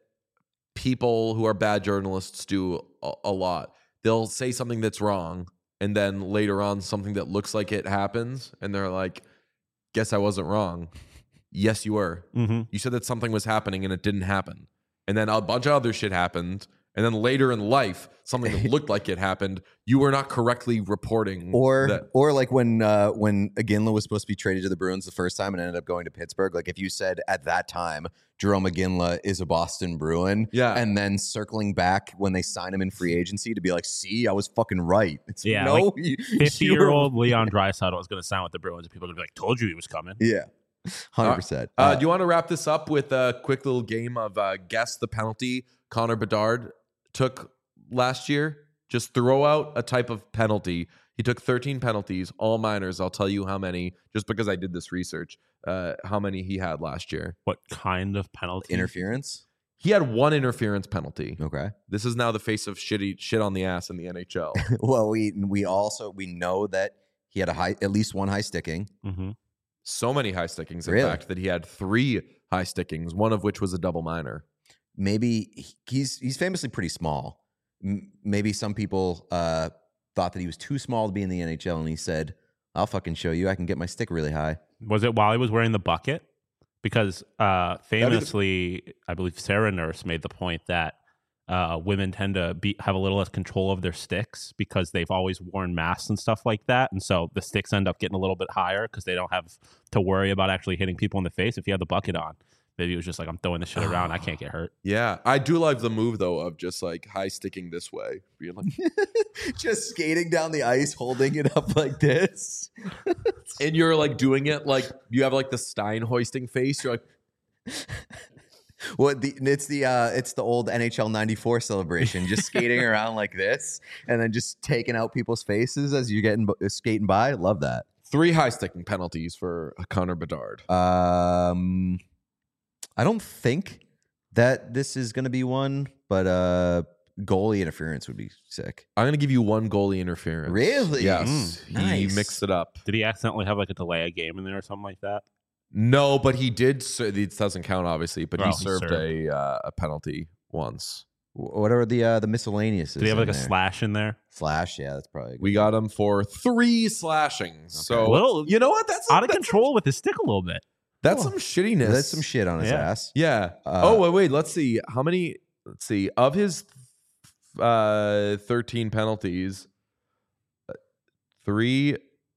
people who are bad journalists do a, a lot. They'll say something that's wrong, and then later on something that looks like it happens, and they're like, "Guess I wasn't wrong." Yes, you were. it. Mm-hmm. You said that something was happening, and it didn't happen. And then a bunch of other shit happened. And then later in life, something that looked like it happened, you were not correctly reporting. Or, that. or like when uh, when Iginla was supposed to be traded to the Bruins the first time and ended up going to Pittsburgh. Like if you said at that time Jerome Iginla is a Boston Bruin, Yeah. and then circling back when they sign him in free agency to be like, see, I was fucking right. It's, Yeah, no, like you- fifty-year-old Leon Draisaitl is going to sign with the Bruins, and people are going to be like, told you he was coming. yeah, hundred percent. Uh, do you want to wrap this up with a quick little game of uh, guess the penalty Connor Bedard took last year? Just throw out a type of penalty. He took thirteen penalties, all minors. I'll tell you how many, just because I did this research, uh, how many he had last year. What kind of penalty? Interference. He had one interference penalty. Okay. This is now the face of shitty shit on the ass in the N H L. Well, we we also we know that he had a high, at least one high sticking. Mm-hmm. So many high stickings, in Really? fact, that he had three high stickings, one of which was a double minor. Maybe he- he's he's famously pretty small. M- maybe some people uh, thought that he was too small to be in the N H L, and he said, "I'll fucking show you. I can get my stick really high." Was it while he was wearing the bucket? Because uh, be the- famously, I believe Sarah Nurse made the point that uh, women tend to be have a little less control of their sticks because they've always worn masks and stuff like that, and so the sticks end up getting a little bit higher because they don't have to worry about actually hitting people in the face if you have the bucket on. Maybe it was just like, I'm throwing this shit around, I can't get hurt. Yeah, I do like the move though of just like high sticking this way, being like, Just skating down the ice, holding it up like this. and you're like doing it like you have like the Stein hoisting face. You're like, What the it's the uh it's the old N H L ninety-four celebration, just skating around like this and then just taking out people's faces as you're getting uh, skating by. Love that. three high sticking penalties for Connor Bedard. Um I don't think that this is going to be one, but uh goalie interference would be sick. I'm gonna give you one goalie interference. Really? Yes. Mm, he nice. mixed it up. Did he accidentally have like a delay a game in there or something like that? No, but he did. Ser- it doesn't count, obviously. But Oh, he he served, served. a uh, a penalty once. Wh- What are the uh the miscellaneous? Did he have like a slash in there? slash? Yeah, that's probably a good. We got him for three slashings. So A little you know what? That's out of that's control with his stick a little bit. That's some shittiness. That's some shit on his Yeah. ass. Yeah. Uh, oh wait, wait. Let's see. How many? Let's see. Of his uh, thirteen penalties, uh, three,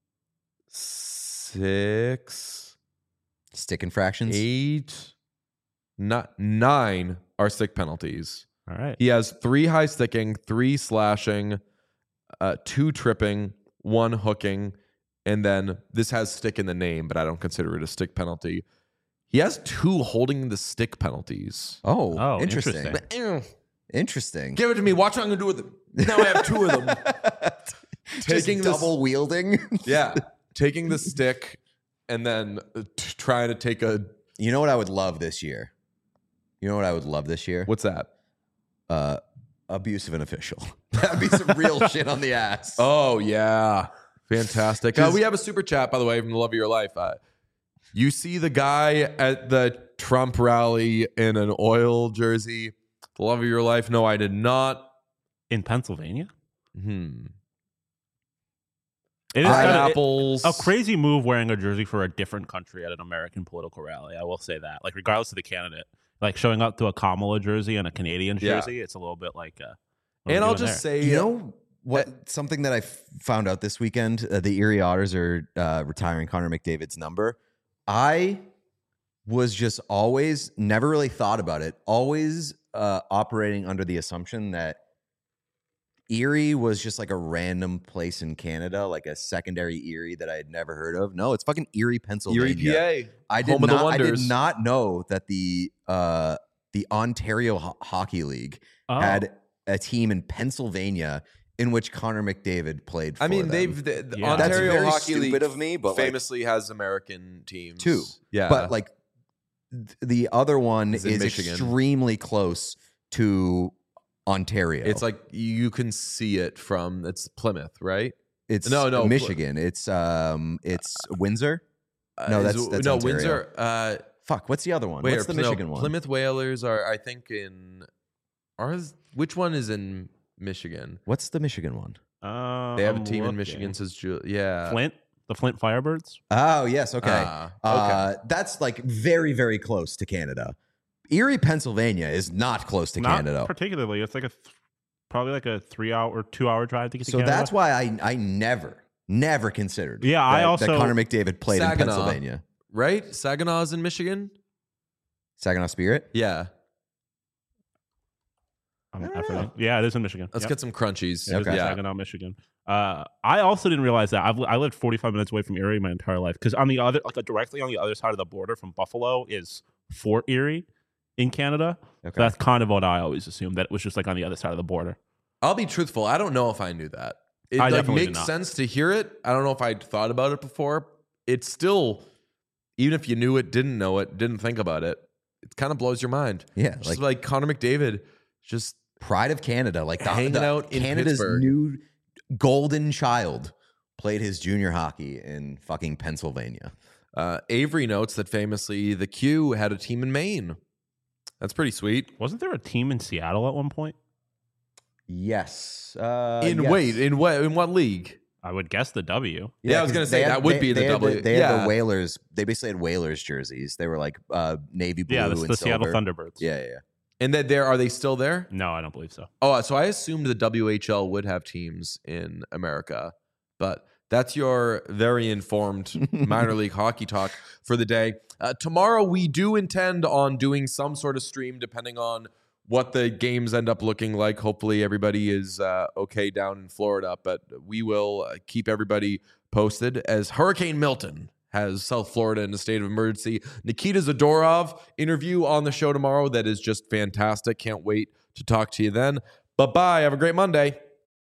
six, Stick infractions. eight, not nine are stick penalties. All right. He has three high sticking, three slashing, uh, two tripping, one hooking, and then this has stick in the name, but I don't consider it a stick penalty. He has two holding the stick penalties. Oh, Oh, interesting. interesting. Eh, Interesting. Give it to me. Watch what I'm gonna do with it. Now I have two of them. Just Taking this- double wielding. Yeah, taking the stick and then uh, t- trying to take a. You know what I would love this year? You know what I would love this year? What's that? Uh, abuse of an official. That'd be some real shit on the ass. Oh yeah, fantastic. Uh, Just- we have a super chat, by the way, from the love of your life. Uh, you see the guy at the Trump rally in an oil jersey. The love of your life? No, I did not. In Pennsylvania? Hmm. It is kind of, it, Pineapples. a crazy move wearing a jersey for a different country at an American political rally. I will say that. Like, regardless of the candidate, like showing up to a Kamala jersey and a Canadian Yeah. jersey, it's a little bit like. Uh, what And are we I'll doing just there? say, You know what? Something that I f- found out this weekend: uh, the Erie Otters are uh, retiring Connor McDavid's number. I was just always never really thought about it. Always uh, operating under the assumption that Erie was just like a random place in Canada, like a secondary Erie that I had never heard of. No, it's fucking Erie, Pennsylvania. Erie, P A. I did home of the not. I did Wonders. not know that the uh, the Ontario Ho- Hockey League Oh. had a team in Pennsylvania in which Connor McDavid played for I mean, them. they've the, the Yeah. That's Ontario very Hockey stupid League of me, but, like- famously has American teams Two. Yeah, but like th- the other one It's is in Michigan. extremely close to Ontario. it's like you can see it from it's Plymouth, right? it's no, no, Michigan. It's um it's Windsor. Uh, No, is- that's- that's no Ontario. Windsor. Uh, Fuck, what's the other one? wait, What's the no, Michigan one? Plymouth Whalers are, I think, in ours. Which one is in Michigan? What's the Michigan one? Uh, They have I'm a team in looking. Michigan. Says Ju- yeah, Flint, the Flint Firebirds. Oh, yes, okay. Ah, Uh, that's like very, very close to Canada. Erie, Pennsylvania is not close to Not Canada. particularly. It's like a th- probably like a three hour or two hour drive to get to So Canada. that's why I I never, never considered Yeah, I that, also- that Connor McDavid played in Saginaw. Pennsylvania. right. Saginaw's in Michigan. Saginaw Spirit? Yeah, I'm I don't efforting. know. Yeah, it is in Michigan. let's Yep. get some crunchies. It is in Okay. Saginaw, Michigan. Uh, I also didn't realize that. I've, I lived forty-five minutes away from Erie my entire life because on the other, like directly on the other side of the border from Buffalo is Fort Erie in Canada. Okay. That's kind of what I always assumed, that it was just like on the other side of the border. I'll be truthful. I don't know if I knew that. It I like, definitely did makes not. sense to hear it. I don't know if I'd thought about it before. It's still, even if you knew it, didn't know it, didn't think about it, it kind of blows your mind. yeah, Just like like, Connor McDavid, just pride of Canada, like the, Hanging the- out in Canada's Pittsburgh. new golden child played his junior hockey in fucking Pennsylvania. uh, Avery notes that famously the Q had a team in Maine. That's pretty sweet. Wasn't there a team in Seattle at one point? Yes. Uh, in yes. wait, in what in what league? I would guess the W. Yeah, I was 'cause gonna they say had- that would they- be the they had W. They had Yeah. the Whalers. They basically had Whalers jerseys. They were like uh, navy blue Yeah, and this is the Seattle silver. Thunderbirds. Yeah, yeah, yeah. And that there are they still there? No, I don't believe so. Oh, so I assumed the W H L would have teams in America, but that's your very informed minor league hockey talk for the day. Uh, tomorrow, we do intend on doing some sort of stream, depending on what the games end up looking like. Hopefully, everybody is uh, okay down in Florida, but we will uh, keep everybody posted as Hurricane Milton has South Florida in a state of emergency. Nikita Zadorov interview on the show tomorrow that is just fantastic. Can't wait to talk to you then. Bye bye. Have a great Monday.